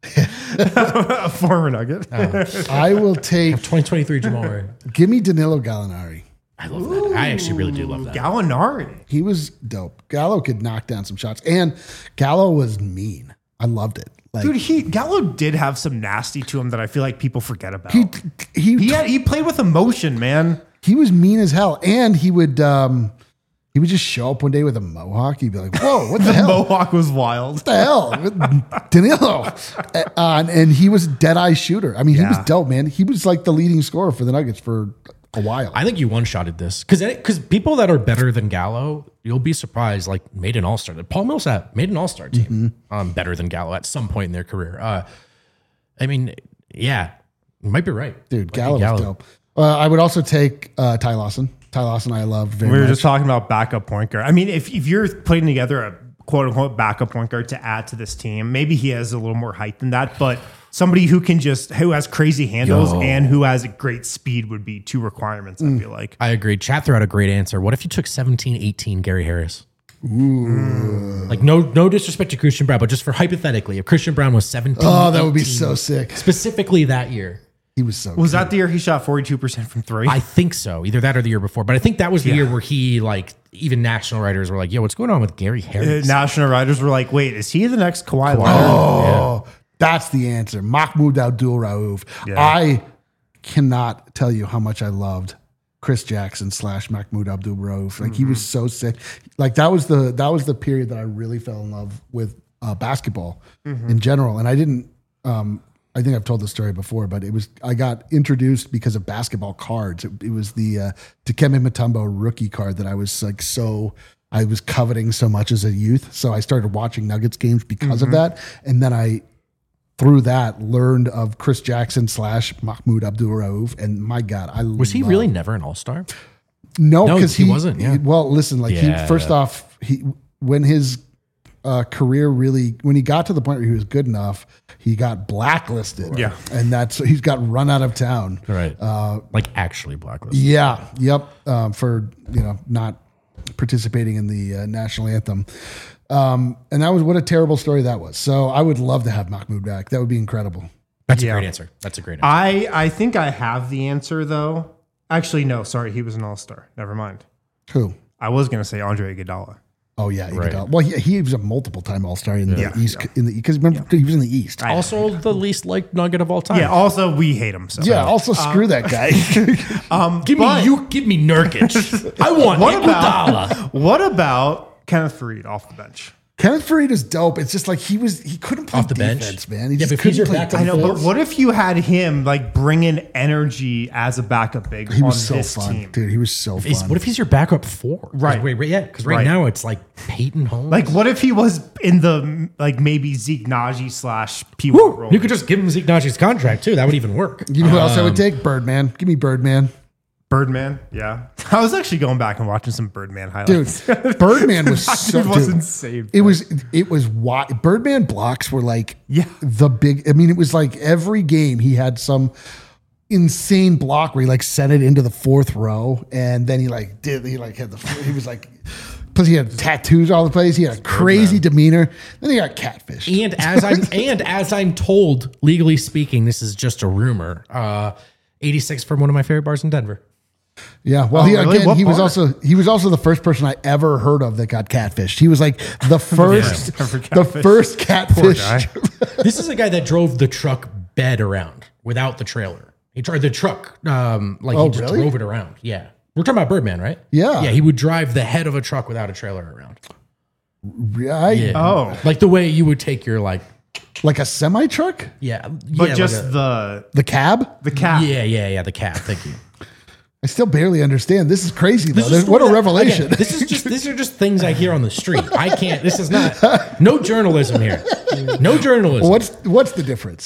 A former Nugget. I will take. twenty twenty-three Jamal Murray. Give me Danilo Gallinari. I love that. I actually really do love that. Gallinari. He was dope. Gallo could knock down some shots, and Gallo was mean. I loved it. Like Dude, he Gallo did have some nasty to him that I feel like people forget about. he he He had, he played with emotion, man. he was mean as hell, and he would um He would just show up one day with a mohawk. He'd be like, "Whoa, what the, The hell? mohawk was wild. What the hell, Danilo?" Uh, and, and he was a dead eye shooter. I mean, he was Yeah. dope, man. He was like the leading scorer for the Nuggets for a while. I think you one-shotted this because because people that are better than Gallo, you'll be surprised. Like made an All-Star. Paul Millsap made an All-Star team, Mm-hmm. um, better than Gallo at some point in their career. Uh, I mean, yeah, you might be right, Dude, Might be Gallo was dope. Uh, I would also take uh, Ty Lawson. Ty Lawson, I loved very We were much. just talking about backup point guard. I mean, if, if you're putting together a quote unquote backup point guard to add to this team, maybe he has a little more height than that, but somebody who can just, who has crazy handles Yo. and who has a great speed would be two requirements, I feel like. I agree. Chat threw out a great answer. What if you took seventeen eighteen Gary Harris? Ooh. Like no no disrespect to Christian Brown, but just for hypothetically, if Christian Brown was seventeen, Oh, that would be eighteen, so sick. specifically that year. He was so Was that the year he shot forty-two percent from three? I think so. Either that or the year before. But I think that was the Yeah. year where he, like, even national writers were like, yo, what's going on with Gary Uh, Harris? National writers were like, wait, is he the next Kawhi Leonard? Oh, that's the answer. Mahmoud Abdul Rauf. Yeah. I cannot tell you how much I loved Chris Jackson slash Mahmoud Abdul Rauf. Like he was so sick. Like that was the that was the period that I really fell in love with uh, basketball in general. And I didn't. Um, I think I've told the story before, but it was I got introduced because of basketball cards. It, it was the uh, Dikembe Mutombo rookie card that I was like so. I was coveting so much as a youth. So I started watching Nuggets games because of that. And then I, through that, learned of Chris Jackson slash Mahmoud Abdul Rauf. And my God, I Was he love- really never an all-star? No, No, because he he, wasn't, yeah. Well, listen, like Yeah. he first off, he when his uh, career really when he got to the point where he was good enough, he got blacklisted. Yeah. and that's he's got run out of town. Right. Uh, like, actually blacklisted. Yeah. Yep. Um, for you know not participating in the uh, national anthem. Um, and that was what a terrible story that was. So I would love to have Mahmoud back. That would be incredible. That's Yeah. a great answer. That's a great answer. I, I think I have the answer, though. Actually, no, sorry. He was an all-star. Never mind. Who? I was going to say Andre Iguodala. Oh yeah, Right. Iguodala. Well, he, he was a multiple time All Star in the Yeah. East. In the because remember he was in the East. also, the least liked Nugget of all time. Yeah, also, we hate him. So. Yeah. Also, screw that guy. Um, Give but me you. Give me Nurkic. I want What Iguodala. about, what about Kenneth Faried off the bench? Kenneth Faried is dope. It's just like he was. He couldn't play Off the bench? defense, man. He Yeah, just but if he's couldn't your play backup I know, defense. but what if you had him like bring in energy as a backup big He on was so this fun, team? dude. He was so Is- fun. what if he's your backup four? Right. Wait, wait, yeah. Because right, Right. now it's like Peyton Holmes. Like, what if he was in the like maybe Zeke Naji slash P one role? you could just give him Zeke Naji's contract too. That would even work. you know who else I Um, would take? Birdman. Give me Birdman, Birdman. Yeah, I was actually going back and watching some Birdman dude. highlights. Birdman was so. It was dude, insane. It was. It was. Why Birdman blocks were like. Yeah. The big. I mean, it was like every game he had some insane block where he like sent it into the fourth row, and then he like did. He like had the. He was like. Plus, he had tattoos all the place. He had a crazy demeanor. Then he got catfished. And as I'm and as I'm told, legally speaking, this is just a rumor. Uh, eighty-six from one of my favorite bars in Denver. Yeah, well, Oh, he really? again, What he was bar? also he was also the first person I ever heard of that got catfished. He was like the first, Never the catfished. first Poor catfish. guy. This is a guy that drove the truck bed around without the trailer. He tried the truck, um, like Oh, he just really? drove it around. Yeah, we're talking about Birdman, right? Yeah. yeah. He would drive the head of a truck without a trailer around. Right? Yeah, Oh. like the way you would take your like, Like a semi truck, yeah, but yeah, just like a- the the cab. the cap. yeah, yeah, yeah, the cab. Thank you. I still barely understand. This is crazy though. This is There's- what a story that- revelation! again, this is just these are just things I hear on the street. I can't. This is not no journalism here. No journalism. what's what's the difference?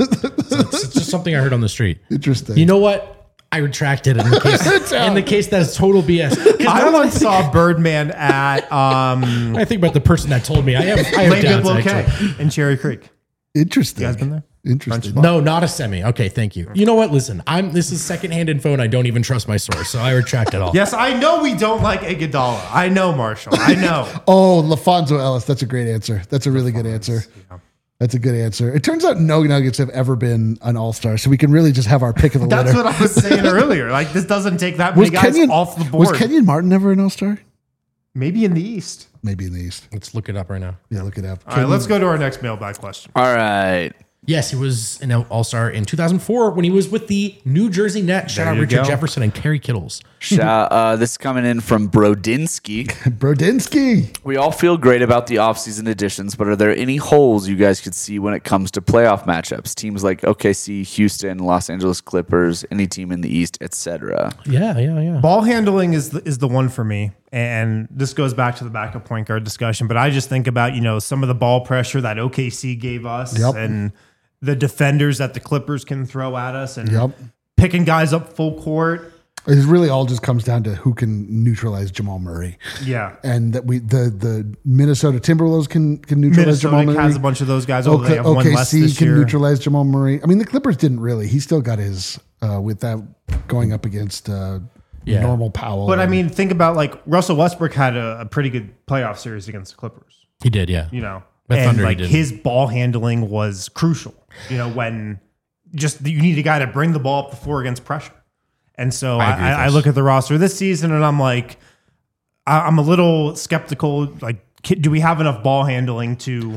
It's just something I heard on the street. Interesting. You know what? I retracted it in the case. in the case that is total B S. 'Cause I now that once saw Birdman at um, I think about the person that told me. I have. I have Lake doubts, Bidwell actually. K in Cherry Creek. Interesting. You guys been there? Interesting. No, not a semi. Okay, thank you. You know what? Listen, I'm. This is secondhand info, and I don't even trust my source, so I retract it all. Yes, I know we don't like Iguodala. I know, Marshall. I know. Oh, LaFonso Ellis. That's a great answer. That's a really good answer. That's a good answer. It turns out no Nuggets have ever been an All Star, so we can really just have our pick of the That's litter. what I was saying earlier. Like this doesn't take that was many guys Kenyon off the board. Was Kenyon Martin ever an All Star? Maybe in the East. Maybe in the East. Let's look it up right now. Yeah, look it up. All right, let's go to our next mailbag question. All right. Yes, he was an All Star in two thousand four when he was with the New Jersey Nets. Shout There out you Richard go. Jefferson and Kerry Kittles. Sha- uh, this is coming in from Brodinski. Brodinski. We all feel great about the offseason additions, but are there any holes you guys could see when it comes to playoff matchups? Teams like O K C, Houston, Los Angeles Clippers, any team in the East, et cetera. Yeah, yeah, yeah. Ball handling is the, is the one for me. And this goes back to the backup point guard discussion. But I just think about, you know, some of the ball pressure that O K C gave us Yep. and the defenders that the Clippers can throw at us and Yep. picking guys up full court. It really all just comes down to who can neutralize Jamal Murray. Yeah. And that we the the Minnesota Timberwolves can can neutralize Jamal Minnesota Murray. has a bunch of those guys. Although they have O one K less C this can year. neutralize Jamal Murray. I mean, the Clippers didn't really. He still got his uh, with that going up against uh, Yeah. normal Powell. But I and- mean, think about like Russell Westbrook had a, a pretty good playoff series against the Clippers. He did, yeah. You know, But and Thunder he like didn't. his ball handling was crucial. You know, when just you need a guy to bring the ball up the floor against pressure. And so I I, agree with I, I this. look at the roster this season and I'm like, I, I'm a little skeptical. Like, ki- do we have enough ball handling to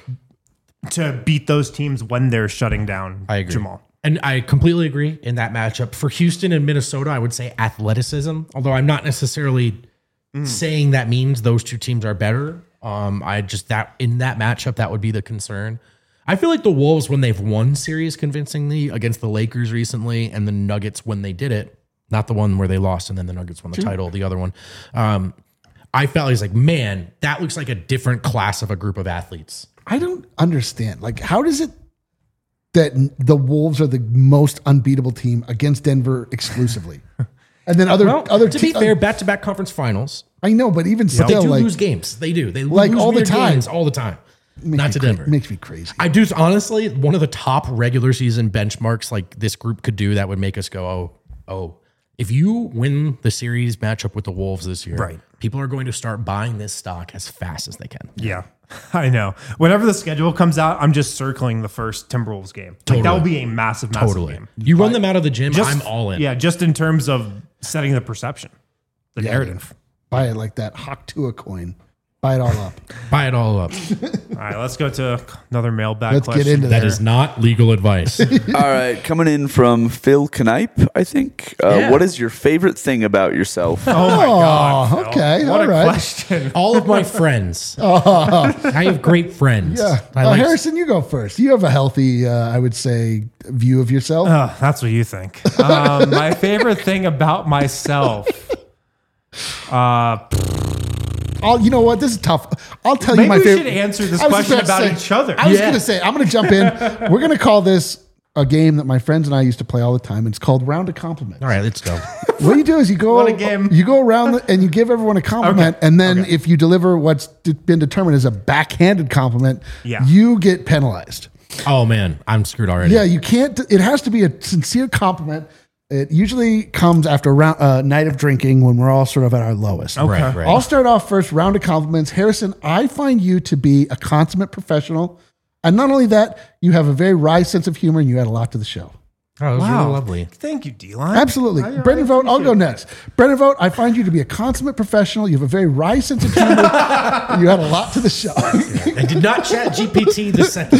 to beat those teams when they're shutting down I agree. Jamal? And I completely agree in that matchup. For Houston and Minnesota, I would say athleticism, although I'm not necessarily saying that means those two teams are better. Um, I just that in that matchup, that would be the concern. I feel like the Wolves, when they've won series convincingly against the Lakers recently, and the Nuggets when they did it, not the one where they lost and then the Nuggets won the title, the other one. Um, I felt like, like, man, that looks like a different class of a group of athletes. I don't understand. Like, how does it that the Wolves are the most unbeatable team against Denver exclusively, and then other Well, other to be te- fair, back-to-back conference finals. I know, but even They still, do like, lose games. They do. They Like, lose all the weird time. games all the time. makes Not me to cra- Denver. makes me crazy. I do honestly one of the top regular season benchmarks like this group could do that would make us go, oh, oh. If you win the series matchup with the Wolves this year, Right. people are going to start buying this stock as fast as they can. Yeah, I know. Whenever the schedule comes out, I'm just circling the first Timberwolves game. Like, that Totally. will be a massive, massive Totally. game. You run them out of the gym, Just, I'm all in. Yeah, just in terms of setting the perception, the narrative. Buy it like that Hawk Tua coin. Buy it all up. Buy it all up. All right, let's go to another mailbag Let's question. get into That there. is not legal advice. All right, coming in from Phil Knipe, I think. Uh, Yeah. What is your favorite thing about yourself? Oh my God! Phil. okay, what all a right. question. all of my friends. I have great friends. Yeah. I Uh, like Harrison, you go first. You have a healthy, uh, I would say, view of yourself. Oh, that's what you think. Um, my favorite thing about myself. Uh, I'll, you know what? This is tough. I'll tell maybe you my we favorite. should answer this I was question just about about to say- each other. I was Yeah. going to say, I'm going to jump in. We're going to call this a game that my friends and I used to play all the time. It's called Round of Compliments. All right, let's go. What you do is you go, What a game. you go around the, and you give everyone a compliment, Okay. and then Okay. if you deliver what's d- been determined as a backhanded compliment, Yeah. you get penalized. Oh man, I'm screwed already. Yeah, you can't. It has to be a sincere compliment. It usually comes after a round, uh, night of drinking when we're all sort of at our lowest. Right, right. I'll start off first. Round of compliments. Harrison, I find you to be a consummate professional, and not only that, you have a very wry sense of humor, and you add a lot to the show. Oh, that was Wow. really lovely. Thank you, D-Line. Absolutely. I- I Brendan Vogt, I'll go appreciate next. Brendan Vogt, I find you to be a consummate professional. You have a very wry sense of humor. You add a lot to the show. I did not chat G P T the second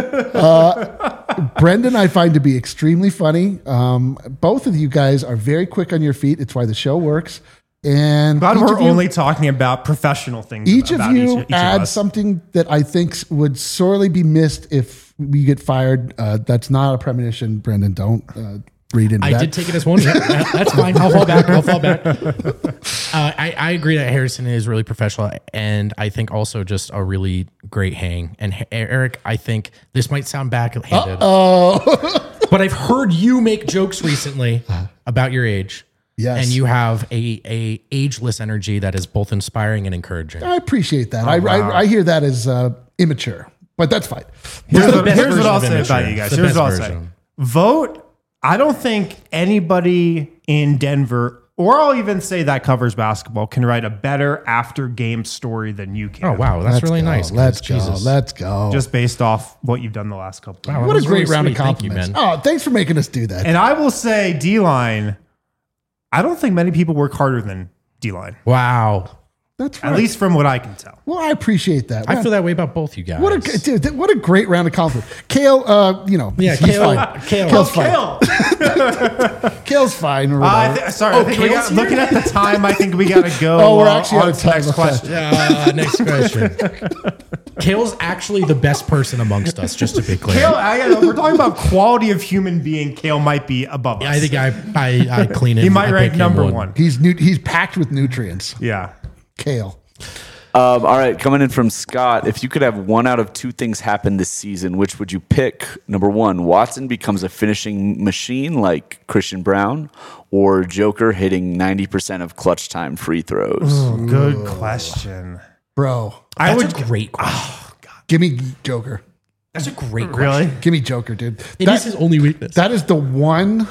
one. Brendan, I find to be extremely funny. Um, both of you guys are very quick on your feet. It's why the show works. And Glad each we're of you- only talking about professional things. Each of about you each, each add of us. something that I think would sorely be missed if we get fired. Uh, that's not a premonition, Brendan. Don't uh, read into I that. did take it as one. Yeah, that- that's fine. I'll fall back. I'll fall back. Uh, I, I agree that Harrison is really professional, and I think also just a really great hang. And Ha- Eric, I think this might sound backhanded, Oh, but I've heard you make jokes recently about your age. Yes. And you have a, a ageless energy that is both inspiring and encouraging. I appreciate that. I, wow. I, I hear that as uh, immature, but that's fine. Here's, the what- best here's what version I'll of say immature. about you guys. It's the Here's best what I'll say. version. Vote. I don't think anybody in Denver, or I'll even say that covers basketball, can write a better after game story than you can. Oh, wow. That's Let's really go. nice. Let's guys. go. Jesus. Let's go. Just based off what you've done the last couple of Wow, years. what that a was great really round of sweet. Thank you, compliments. man. Oh, thanks for making us do that. And I will say, D-Line, I don't think many people work harder than D-Line. Wow. That's right. At least from what I can tell. Well, I appreciate that. I feel that way about both you guys. What a dude, what a great round of compliment. Kale, uh, you know, yeah, he's Kale, fine. Kale, Kale's Kale. fine. Kale's fine. Or Uh, I whatever. th- sorry, Oh, I think we Kale's got, here? looking at the time, I think we got to go. Oh, we're uh, actually on out of to the time. next Okay. question. Uh, next question. Kale's actually the best person amongst us, just to be clear. Kale, I, gotta- we're talking about quality of human being. Kale might be above us. I think I I, I clean it. he might I rank pick him number one. he's nu- he's packed with nutrients. Yeah. Kale. Um, all right, coming in from Scott. If you could have one out of two things happen this season, which would you pick? Number one, Watson becomes a finishing machine like Christian Brown, or Joker hitting ninety percent of clutch time free throws. Ooh, good question. Bro. I That's would a great question. Give me Joker. That's a great question. really. Give me Joker, dude. It That- is his only weakness. that is the one.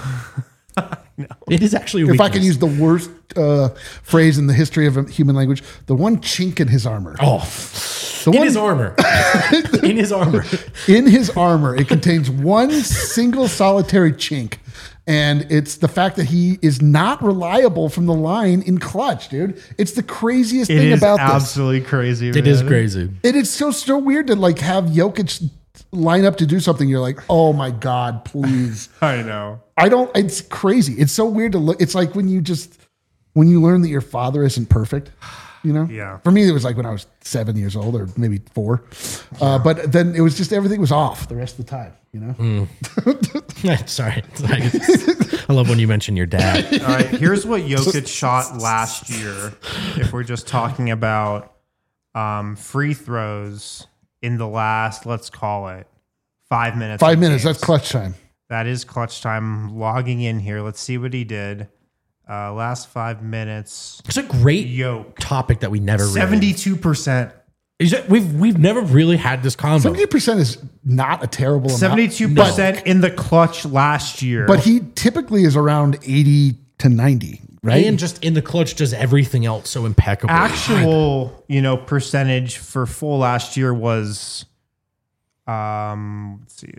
It is actually a If weakness. I can use the worst uh, phrase in the history of human language, the one chink in his armor. Oh, the in one his armor. in his armor. in his armor, it contains one single solitary chink. And it's the fact that he is not reliable from the line in clutch, dude. It's the craziest It thing is about this. absolutely crazy. It is crazy. It is so so weird to like have Jokic line up to do something. You're like, oh my god, please. I know. I don't. It's crazy. It's so weird to look. It's like when you just when you learn that your father isn't perfect. You know. Yeah. For me, it was like when I was seven years old, or maybe four. Uh, but then it was just everything was off the rest of the time. You know. Sorry. I love when you mention your dad. All right, here's what Jokic shot last year. If we're just talking about um, free throws in the last, let's call it five minutes. Five of minutes. games. That's clutch time. That is clutch time. Logging in here. Let's see what he did. Uh, last five minutes. It's a great Yoke. topic that we never really. Seventy-two percent. Is that, we've we've never really had this combo. Seventy percent is not a terrible amount. Seventy-two percent in the clutch last year. But he typically is around eighty to ninety, right? And just in the clutch does everything else so impeccably. actual, you know, percentage for full last year was, um, let's see,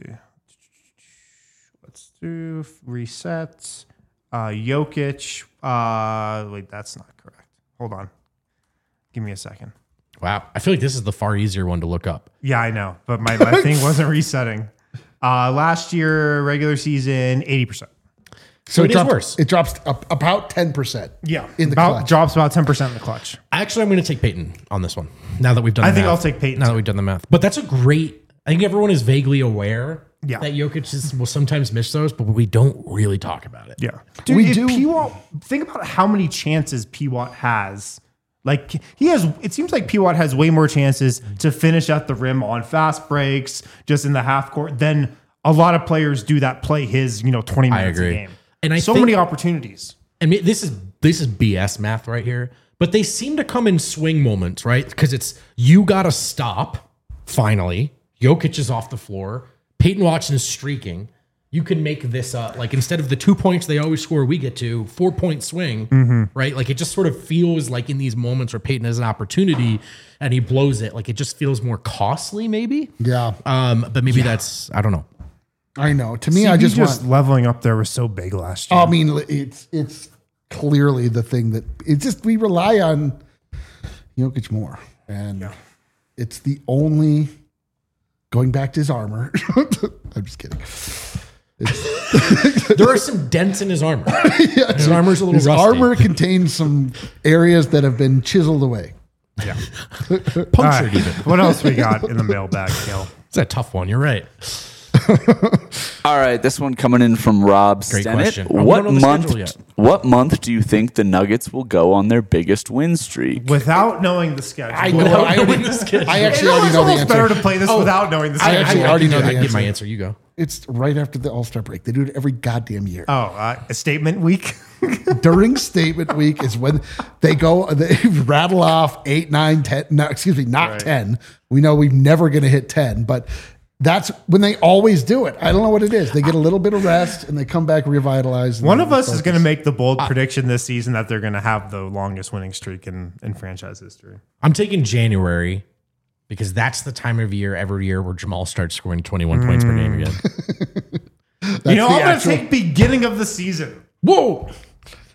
let's do resets. Uh, Jokic. Uh, wait, that's not correct. Hold on, give me a second. Wow. I feel like this is the far easier one to look up. Yeah, I know, but my, my thing wasn't resetting. Uh, last year, regular season, eighty percent. So it is drops, worse. It drops up about ten percent. Yeah, in the about, clutch. drops about ten percent in the clutch. Actually, I'm going to take Peyton on this one. Now that we've done I the think math. I'll take Peyton Now too. that we've done the math. But that's a great, I think everyone is vaguely aware Yeah. that Jokic is, will sometimes miss those, but we don't really talk about it. Yeah. Dude, We if do- P-Watt, think about how many chances P-Watt has. Like, he has, it seems like P-Watt has way more chances to finish at the rim on fast breaks, just in the half court, than a lot of players do that play his, you know, twenty I minutes agree. a game. And I so think- many opportunities. I mean, this is this is B S math right here, but they seem to come in swing moments, right? Because it's you got to stop. Finally, Jokic is off the floor. Peyton Watson is streaking. You can make this uh, like instead of the two points they always score, we get to four point swing, Mm-hmm. right? Like it just sort of feels like in these moments where Peyton has an opportunity and he blows it, like it just feels more costly, maybe. Yeah, Um, but maybe that's I don't know. I know. To me, I C B just, just want. leveling up there was so big last year. I mean, it's it's clearly the thing that it's just we rely on Jokic more, and it's the only going back to his armor. I'm just kidding. There are some dents in his armor. His armor's a little His rusty. armor contains some areas that have been chiseled away. punctured All right. even. What else we got in the mailbag, Kale? It's a tough one. You're right. All right, this one coming in from Rob Great Stennett. question. Oh, we What don't know the month? schedule yet. What month do you think the Nuggets will go on their biggest win streak? Without knowing the schedule. I know. Without I, knowing already, the schedule. I It actually already almost know the almost better answer. to play this Oh, without knowing the I schedule. actually already know I the can give my answer. answer. You go. It's right after the All Star break. They do it every goddamn year. Oh, uh, a statement week? During statement week is when they go, they rattle off eight, nine, ten. No, excuse me, not Right. ten. We know we're never going to hit ten, but that's when they always do it. I don't know what it is. They get a little bit of rest and they come back revitalized. and One then of us is focus. going to make the bold prediction this season that they're going to have the longest winning streak in, in franchise history. I'm taking January because that's the time of year every year where Jamal starts scoring twenty-one points per game again. you know, the I'm going to actual- take beginning of the season. Whoa!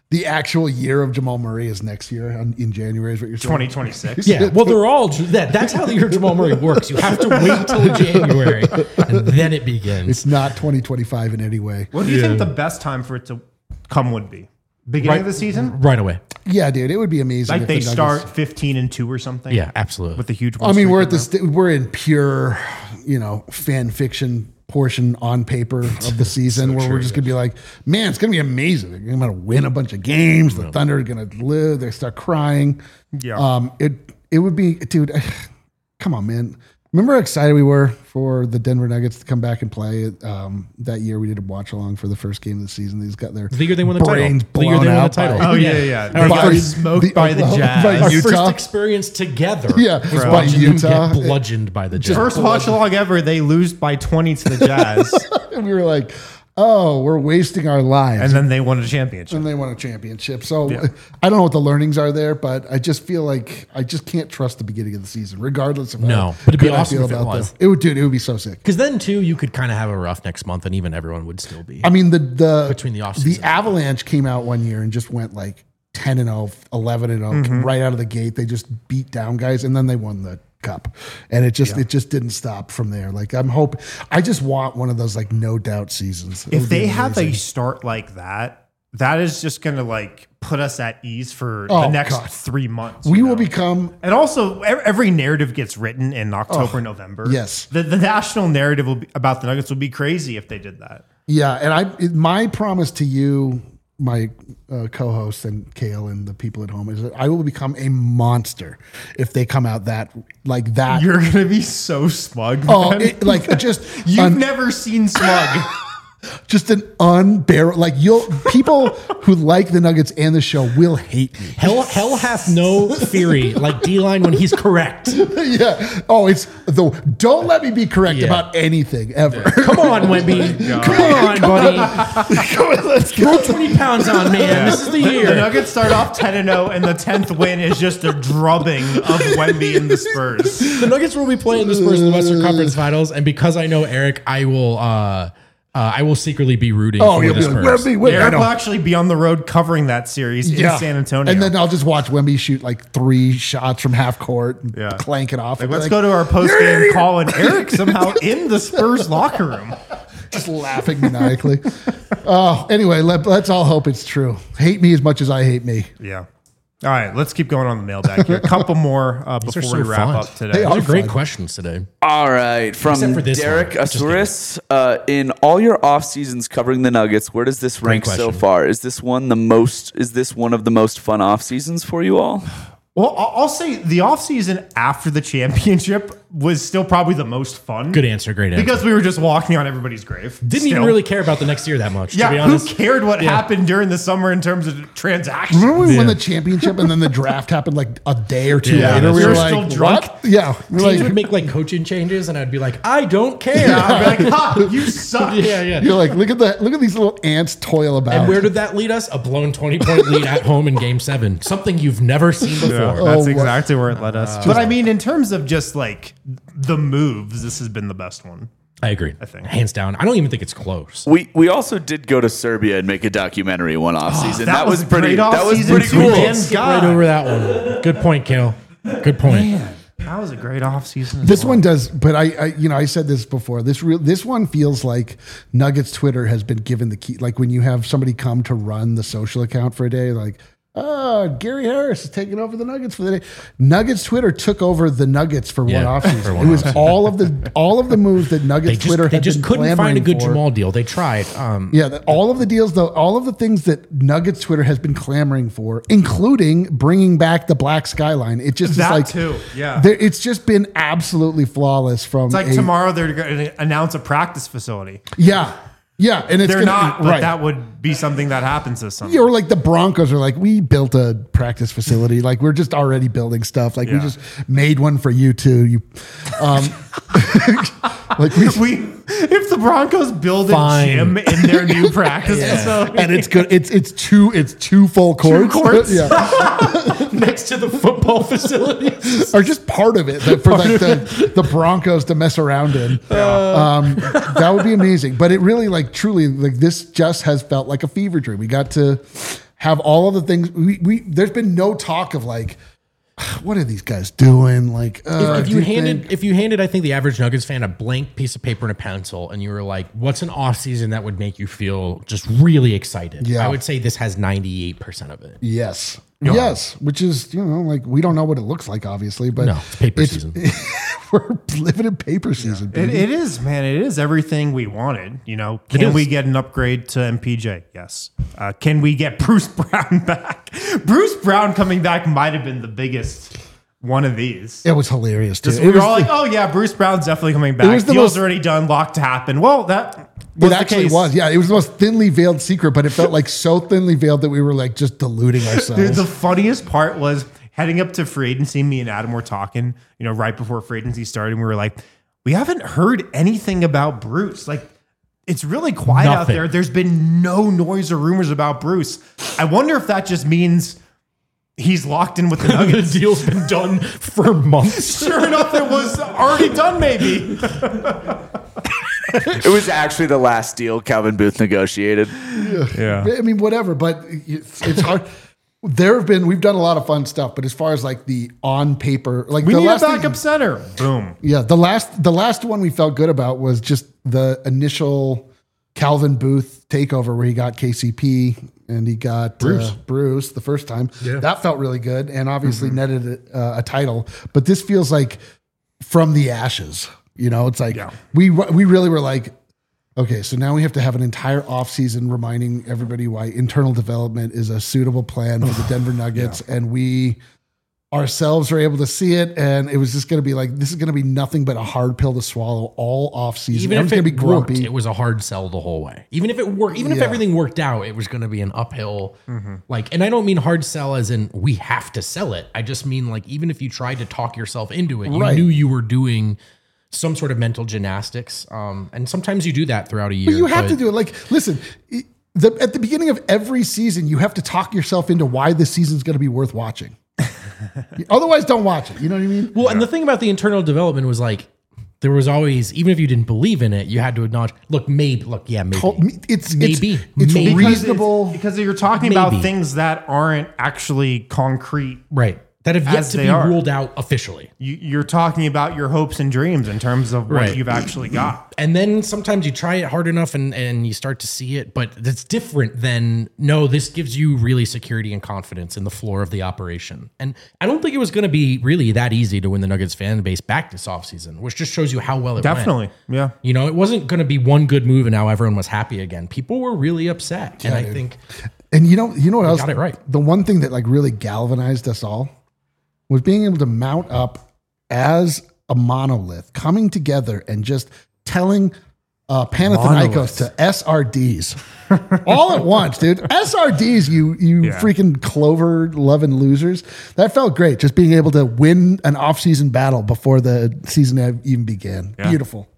The actual year of Jamal Murray is next year on, in January, is what you're saying? twenty twenty-six. Yeah, well, they're all that. That's how the year Jamal Murray works. You have to wait till January, and then it begins. It's not twenty twenty-five in any way. What do you think the best time for it to come would be? Beginning Right- of the season? right away. Yeah, dude, it would be amazing. Like if they the Nuggets- start fifteen and two or something? Yeah, absolutely. With the huge I mean, we're at the st- we're in pure, you know, fan fiction portion on paper of the season where we're just gonna be like, man, it's gonna be amazing. They're gonna win a bunch of games. The Thunder are gonna live. They start crying. Yeah. Um, it it would be, dude. Come on, man. Remember how excited we were for the Denver Nuggets to come back and play um, that year? We did a watch along for the first game of the season. These got their The year they won the brains title. The year blown they won the out title. by- Oh, yeah, yeah. yeah. They By- got smoked the- by the Jazz. by Our Utah. first experience together. Yeah, was by watching them Utah. get bludgeoned by the Jazz. First watch along ever, they lose by twenty to the Jazz. And we were like, oh, we're wasting our lives. And then they won a championship. and they won a championship. So I don't know what the learnings are there, but I just feel like I just can't trust the beginning of the season, regardless of No, how but it'd be good I awesome feel if it about was. the- It would, dude. It would be so sick. Because then too, you could kind of have a rough next month, and even everyone would still be. I mean, the the Between the the offseason. Avalanche came out one year and just went like ten and oh, eleven and oh Mm-hmm. right out of the gate. They just beat down guys, and then they won the cup, and it just it just didn't stop from there. Like I'm hope I just want one of those like no doubt seasons. It If would be they have a amazing. start like that, that is just going to like put us at ease for the Oh, next God. three months. we you will know? become And also, ev- every narrative gets written in October, November. yes. the, the national narrative will be, about the Nuggets would be crazy if they did that. yeah. And I it- my promise to you, my uh, co-host and Kale and the people at home is that I will become a monster if they come out that like that. You're gonna be so smug. oh, man. it, like just You've un- never seen smug. just an unbearable. Like you'll people who like the Nuggets and the show will hate me. hell, hell hath no theory like D-Line when he's correct. Yeah. Oh, it's the don't let me be correct Yeah. about anything ever. Come on, Wemby. Come on, buddy. Come on, let's go. Throw twenty pounds on, man. This is the The year. Nuggets start off ten and oh, and the tenth win is just a drubbing of Wemby and the Spurs. The Nuggets will be playing the Spurs in the Western Conference Finals, and because I know Eric, I will. Uh, uh, I will secretly be rooting Oh, for you'll the be like, Spurs. Wemby, wait, I Eric know. will actually be on the road covering that series in San Antonio. And then I'll just watch Wemby shoot like three shots from half court and Yeah. clank it off. Like, I'll be let's like, go to our post game call, and Eric somehow in the Spurs locker room. just laughing maniacally. Oh, anyway, let, let's all hope it's true. Hate me as much as I hate me. Yeah. All right, let's keep going on the mailbag here. A couple more uh, These are before we so wrap fun. up today. They Those are are great fun. questions today. All right, from Except for this Derek one. Just Asuris. Uh, in all your off seasons covering the Nuggets, where does this rank so question. far? Is this one the most? Is this one of the most fun off seasons for you all? Well, I'll I'll say the offseason after the championship was still probably the most fun. Good answer. Great answer. Because we were just walking on everybody's grave. Didn't Still. even really care about the next year that much. Yeah, to be who honest. cared what Yeah. happened during the summer in terms of transactions? Remember when we won Yeah. the championship and then the draft happened like a day or two Yeah, later? that's We true. were You're like, still drunk? what? Yeah. We were Teams would like, make like coaching changes, and I'd be like, I don't care. I'd be like, ha, you suck. yeah, yeah. you're like, look at that. Look at these little ants toil about. And where did that lead us? A blown twenty point lead at home in Game Seven. Something you've never seen before. Yeah, that's Oh, what- exactly where it led us. But I mean, in terms of just like the moves, this has been the best one. I agree. I think. Hands down. I don't even think it's close. We we also did go to Serbia and make a documentary one off season. that that, was was, a pretty. great That was off-season pretty too, cool. man. Skip God. right over that one. Good point, Kale. Good point. That was a great offseason. This one does, but I, I, you know, I said this before. This real, this one feels like Nuggets Twitter has been given the key. Like when you have somebody come to run the social account for a day, like, oh, Gary Harris is taking over the Nuggets for the day. Nuggets Twitter took over the Nuggets for Yeah, one for offseason. one It was offseason. all of the all of the moves that They Nuggets just, Twitter they had just been couldn't find a clamoring good for. Jamal deal. They tried. Um, Yeah, that all of the deals, though, all of the things that Nuggets Twitter has been clamoring for, including bringing back the black skyline. It just That is like too, yeah. there- it's just been absolutely flawless from. It's like a- tomorrow they're going to announce a practice facility. Yeah, yeah, and it's They're gonna, not, but right. that would be something that happens this summer. Yeah, or like the Broncos are like, we built a practice facility. Like we're just already building stuff. Like we Yeah. just made one for you two. You, um, like we, we, if the Broncos build Fine. a gym in their new practice facility, and it's good. It's it's two it's two full courts. courts? yeah, next to the football facilities. or just part of it that for like the, the Broncos to mess around in. Um, that would be amazing. But it really, like, truly, like this just has felt like a fever dream. We got to have all of the things. We, we there's been no talk of like, what are these guys doing? Like, uh, If, if do you handed, think- if you handed, I think the average Nuggets fan a blank piece of paper and a pencil, and you were like, "What's an off season that would make you feel just really excited?" Yeah. I would say this has ninety-eight percent of it. yes, yes, which is you know like we don't know what it looks like, obviously, but No, it's paper season. We're living in paper season. It, baby. it is, man. It is everything we wanted. You know, can is. we get an upgrade to M P J? Yes. Uh, can we get Bruce Brown back? Bruce Brown coming back might have been the biggest one of these. It was hilarious too. Just, It we were was all the- like, "Oh yeah, Bruce Brown's definitely coming back. was the Deal's most- already done. Locked to happen." Well, that was It the actually case. was. Yeah, it was the most thinly veiled secret, but it felt like so thinly veiled that we were like just deluding ourselves. Dude, the funniest part was heading up to free agency. Me and Adam were talking, you know, right before free agency started. And we were like, we haven't heard anything about Bruce. Like, it's really quiet out Nothing. there. There's been no noise or rumors about Bruce. I wonder if that just means he's locked in with the The Nuggets. deal's been done for months. Sure enough, it was already done, maybe. It was actually the last deal Calvin Booth negotiated. Yeah. I mean, whatever, but it's, it's hard. There have been, we've done a lot of fun stuff, but as far as like the on paper, like We the need a last thing- backup center. Boom. yeah, the last, the last one we felt good about was just the initial Calvin Booth takeover where he got K C P and he got Bruce, uh, Bruce the first time. Yeah. That felt really good and obviously netted a, uh, a title. But this feels like from the ashes. You know, it's like Yeah. we we really were like, okay, so now we have to have an entire offseason reminding everybody why internal development is a suitable plan for the Denver Nuggets, and we ourselves are able to see it, and it was just going to be like this is going to be nothing but a hard pill to swallow all offseason. Even Everyone's if going it to be worked, grumpy. it was a hard sell the whole way. Even if it worked, even if Yeah. everything worked out, it was going to be an uphill. Like, and I don't mean hard sell as in we have to sell it. I just mean like even if you tried to talk yourself into it, you Right. knew you were doing some sort of mental gymnastics. Um, and sometimes you do that throughout a year. But you have to do it. Like, listen, i- the, at the beginning of every season, you have to talk yourself into why this season's going to be worth watching. Otherwise, don't watch it. You know what I mean? Well, and the thing about the internal development was like, there was always, even if you didn't believe in it, you had to acknowledge, look, maybe, look, yeah, maybe. It's Maybe. it's, it's Maybe. reasonable. Because you're talking Maybe. about things that aren't actually concrete. Right. That have yet As to they be are. ruled out officially. You, you're talking about your hopes and dreams in terms of what Right. you've actually got. And then sometimes you try it hard enough and, and you start to see it, but that's different than, no, this gives you really security and confidence in the floor of the operation. And I don't think it was going to be really that easy to win the Nuggets fan base back this offseason, which just shows you how well it went. Definitely. Yeah. You know, it wasn't going to be one good move and now everyone was happy again. People were really upset. and I dude. think And you know, you know what else? got it right. The one thing that like really galvanized us all was being able to mount up as a monolith, coming together and just telling uh, Panathinaikos Monolith. to S R Ds all at once, dude. S R Ds, you you Yeah. freaking Clover loving losers. That felt great. Just being able to win an off-season battle before the season even began. Yeah. Beautiful.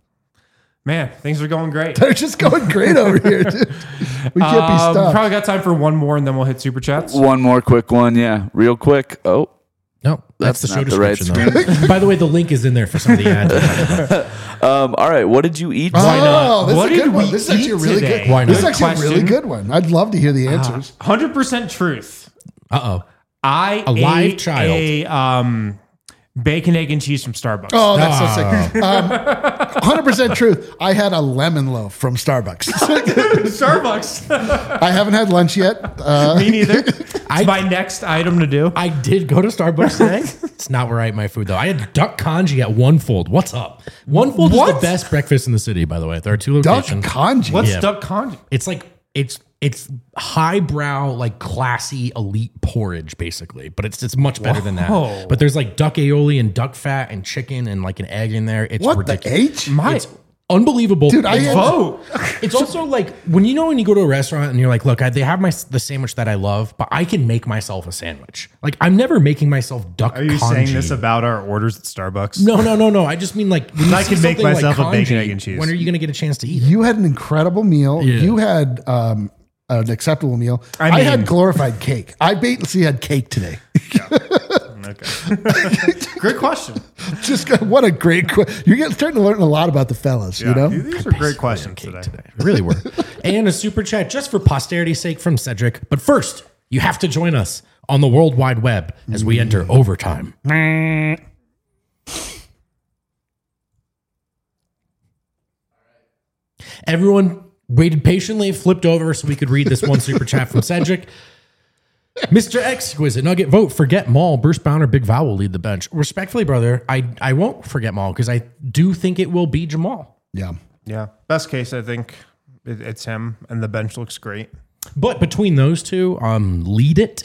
Man, things are going great. They're just going great over here, dude. We can't be Um, stopped. probably got time for one more and then we'll hit super chats. One more quick one, yeah, real quick. Oh, no, that's, That's the show not the right description. Though. By the way, the link is in there for some of the ads. um, all right. What did you eat? Oh, not? this What is a did good one. we This is actually a eat really today? good. Why This is not? actually a really Question. good one. I'd love to hear the answers. one hundred percent truth. Uh-oh. I A live ate child. a um, bacon, egg, and cheese from Starbucks. Oh, that's so sick. Um, one hundred percent truth. I had a lemon loaf from Starbucks. Starbucks. I haven't had lunch yet. Uh, Me neither. It's I- my next item to do. I did go to Starbucks today. It's not where I eat my food though. I had duck congee at One Fold. What's up? One Fold is What? the best breakfast in the city, by the way. There are two duck locations. congee. What's Yeah. duck congee? It's like it's it's highbrow, like classy, elite porridge, basically. But it's it's much better than Whoa. that. But there's like duck aioli and duck fat and chicken and like an egg in there. It's What ridiculous. the H? My It's unbelievable. Dude, I It's had- vote. It's also like when you know when you go to a restaurant and you're like, look, I, they have my the sandwich that I love, but I can make myself a sandwich. Like I'm never making myself duck. Are you congee. saying this about our orders at Starbucks? No, no, no, no. I just mean like when you I see can make something myself like a bacon, congee, egg, and cheese. When are you going to get a chance to eat it? You had an incredible meal. Yeah. You had um, an acceptable meal. I, I had mean- glorified cake. I basically had cake today. Okay. Great question. Just got- what a great question. You're getting, starting to learn a lot about the fellas, you Yeah, know? these are great questions Cake today. today. Really were. And a super chat just for posterity's sake from Cedric. But first, You have to join us on the World Wide Web as we enter overtime. Everyone waited patiently, flipped over so we could read this one super chat from Cedric. Mister Exquisite Nugget vote, forget Maul. Bruce Brown or Big Val will lead the bench. Respectfully, brother, I, I won't forget Maul because I do think it will be Jamal. Yeah. Yeah. Best case, I think it, it's him, and the bench looks great. But between those two, um, lead it.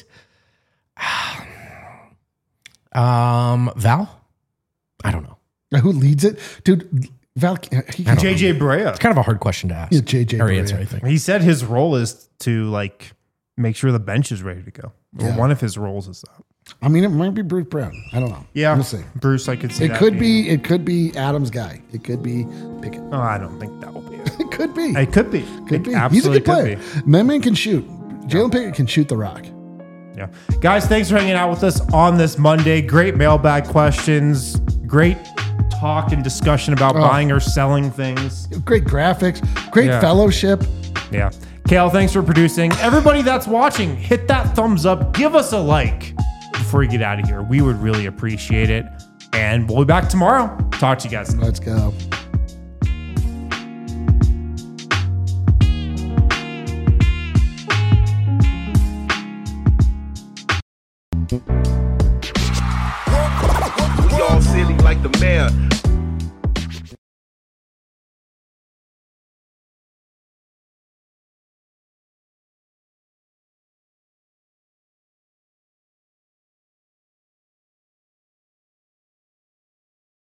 Um, Val? I don't know. Who leads it? Dude, Val, he can J J Barea. It's kind of a hard question to ask. Yeah, J J Or Barea. answer, I think. He said his role is to like make sure the bench is ready to go. Or Yeah. one of his roles is that. I mean, it might be Bruce Brown. I don't know. Yeah. We'll see. Bruce, I could see It that could being- be. It could be Adam's guy. It could be Pickett. Oh, I don't think that will be it. It could be. It could be. Could It be. He's a absolutely good player. could be. My man can shoot. Jalen Pickett can shoot the rock. Yeah. Guys, thanks for hanging out with us on this Monday. Great mailbag questions. Great talk and discussion about Oh. buying or selling things. Great graphics. Great Yeah. fellowship. Yeah. Kale, thanks for producing. Everybody that's watching, hit that thumbs up. Give us a like before you get out of here. We would really appreciate it. And we'll be back tomorrow. Talk to you guys. Let's go.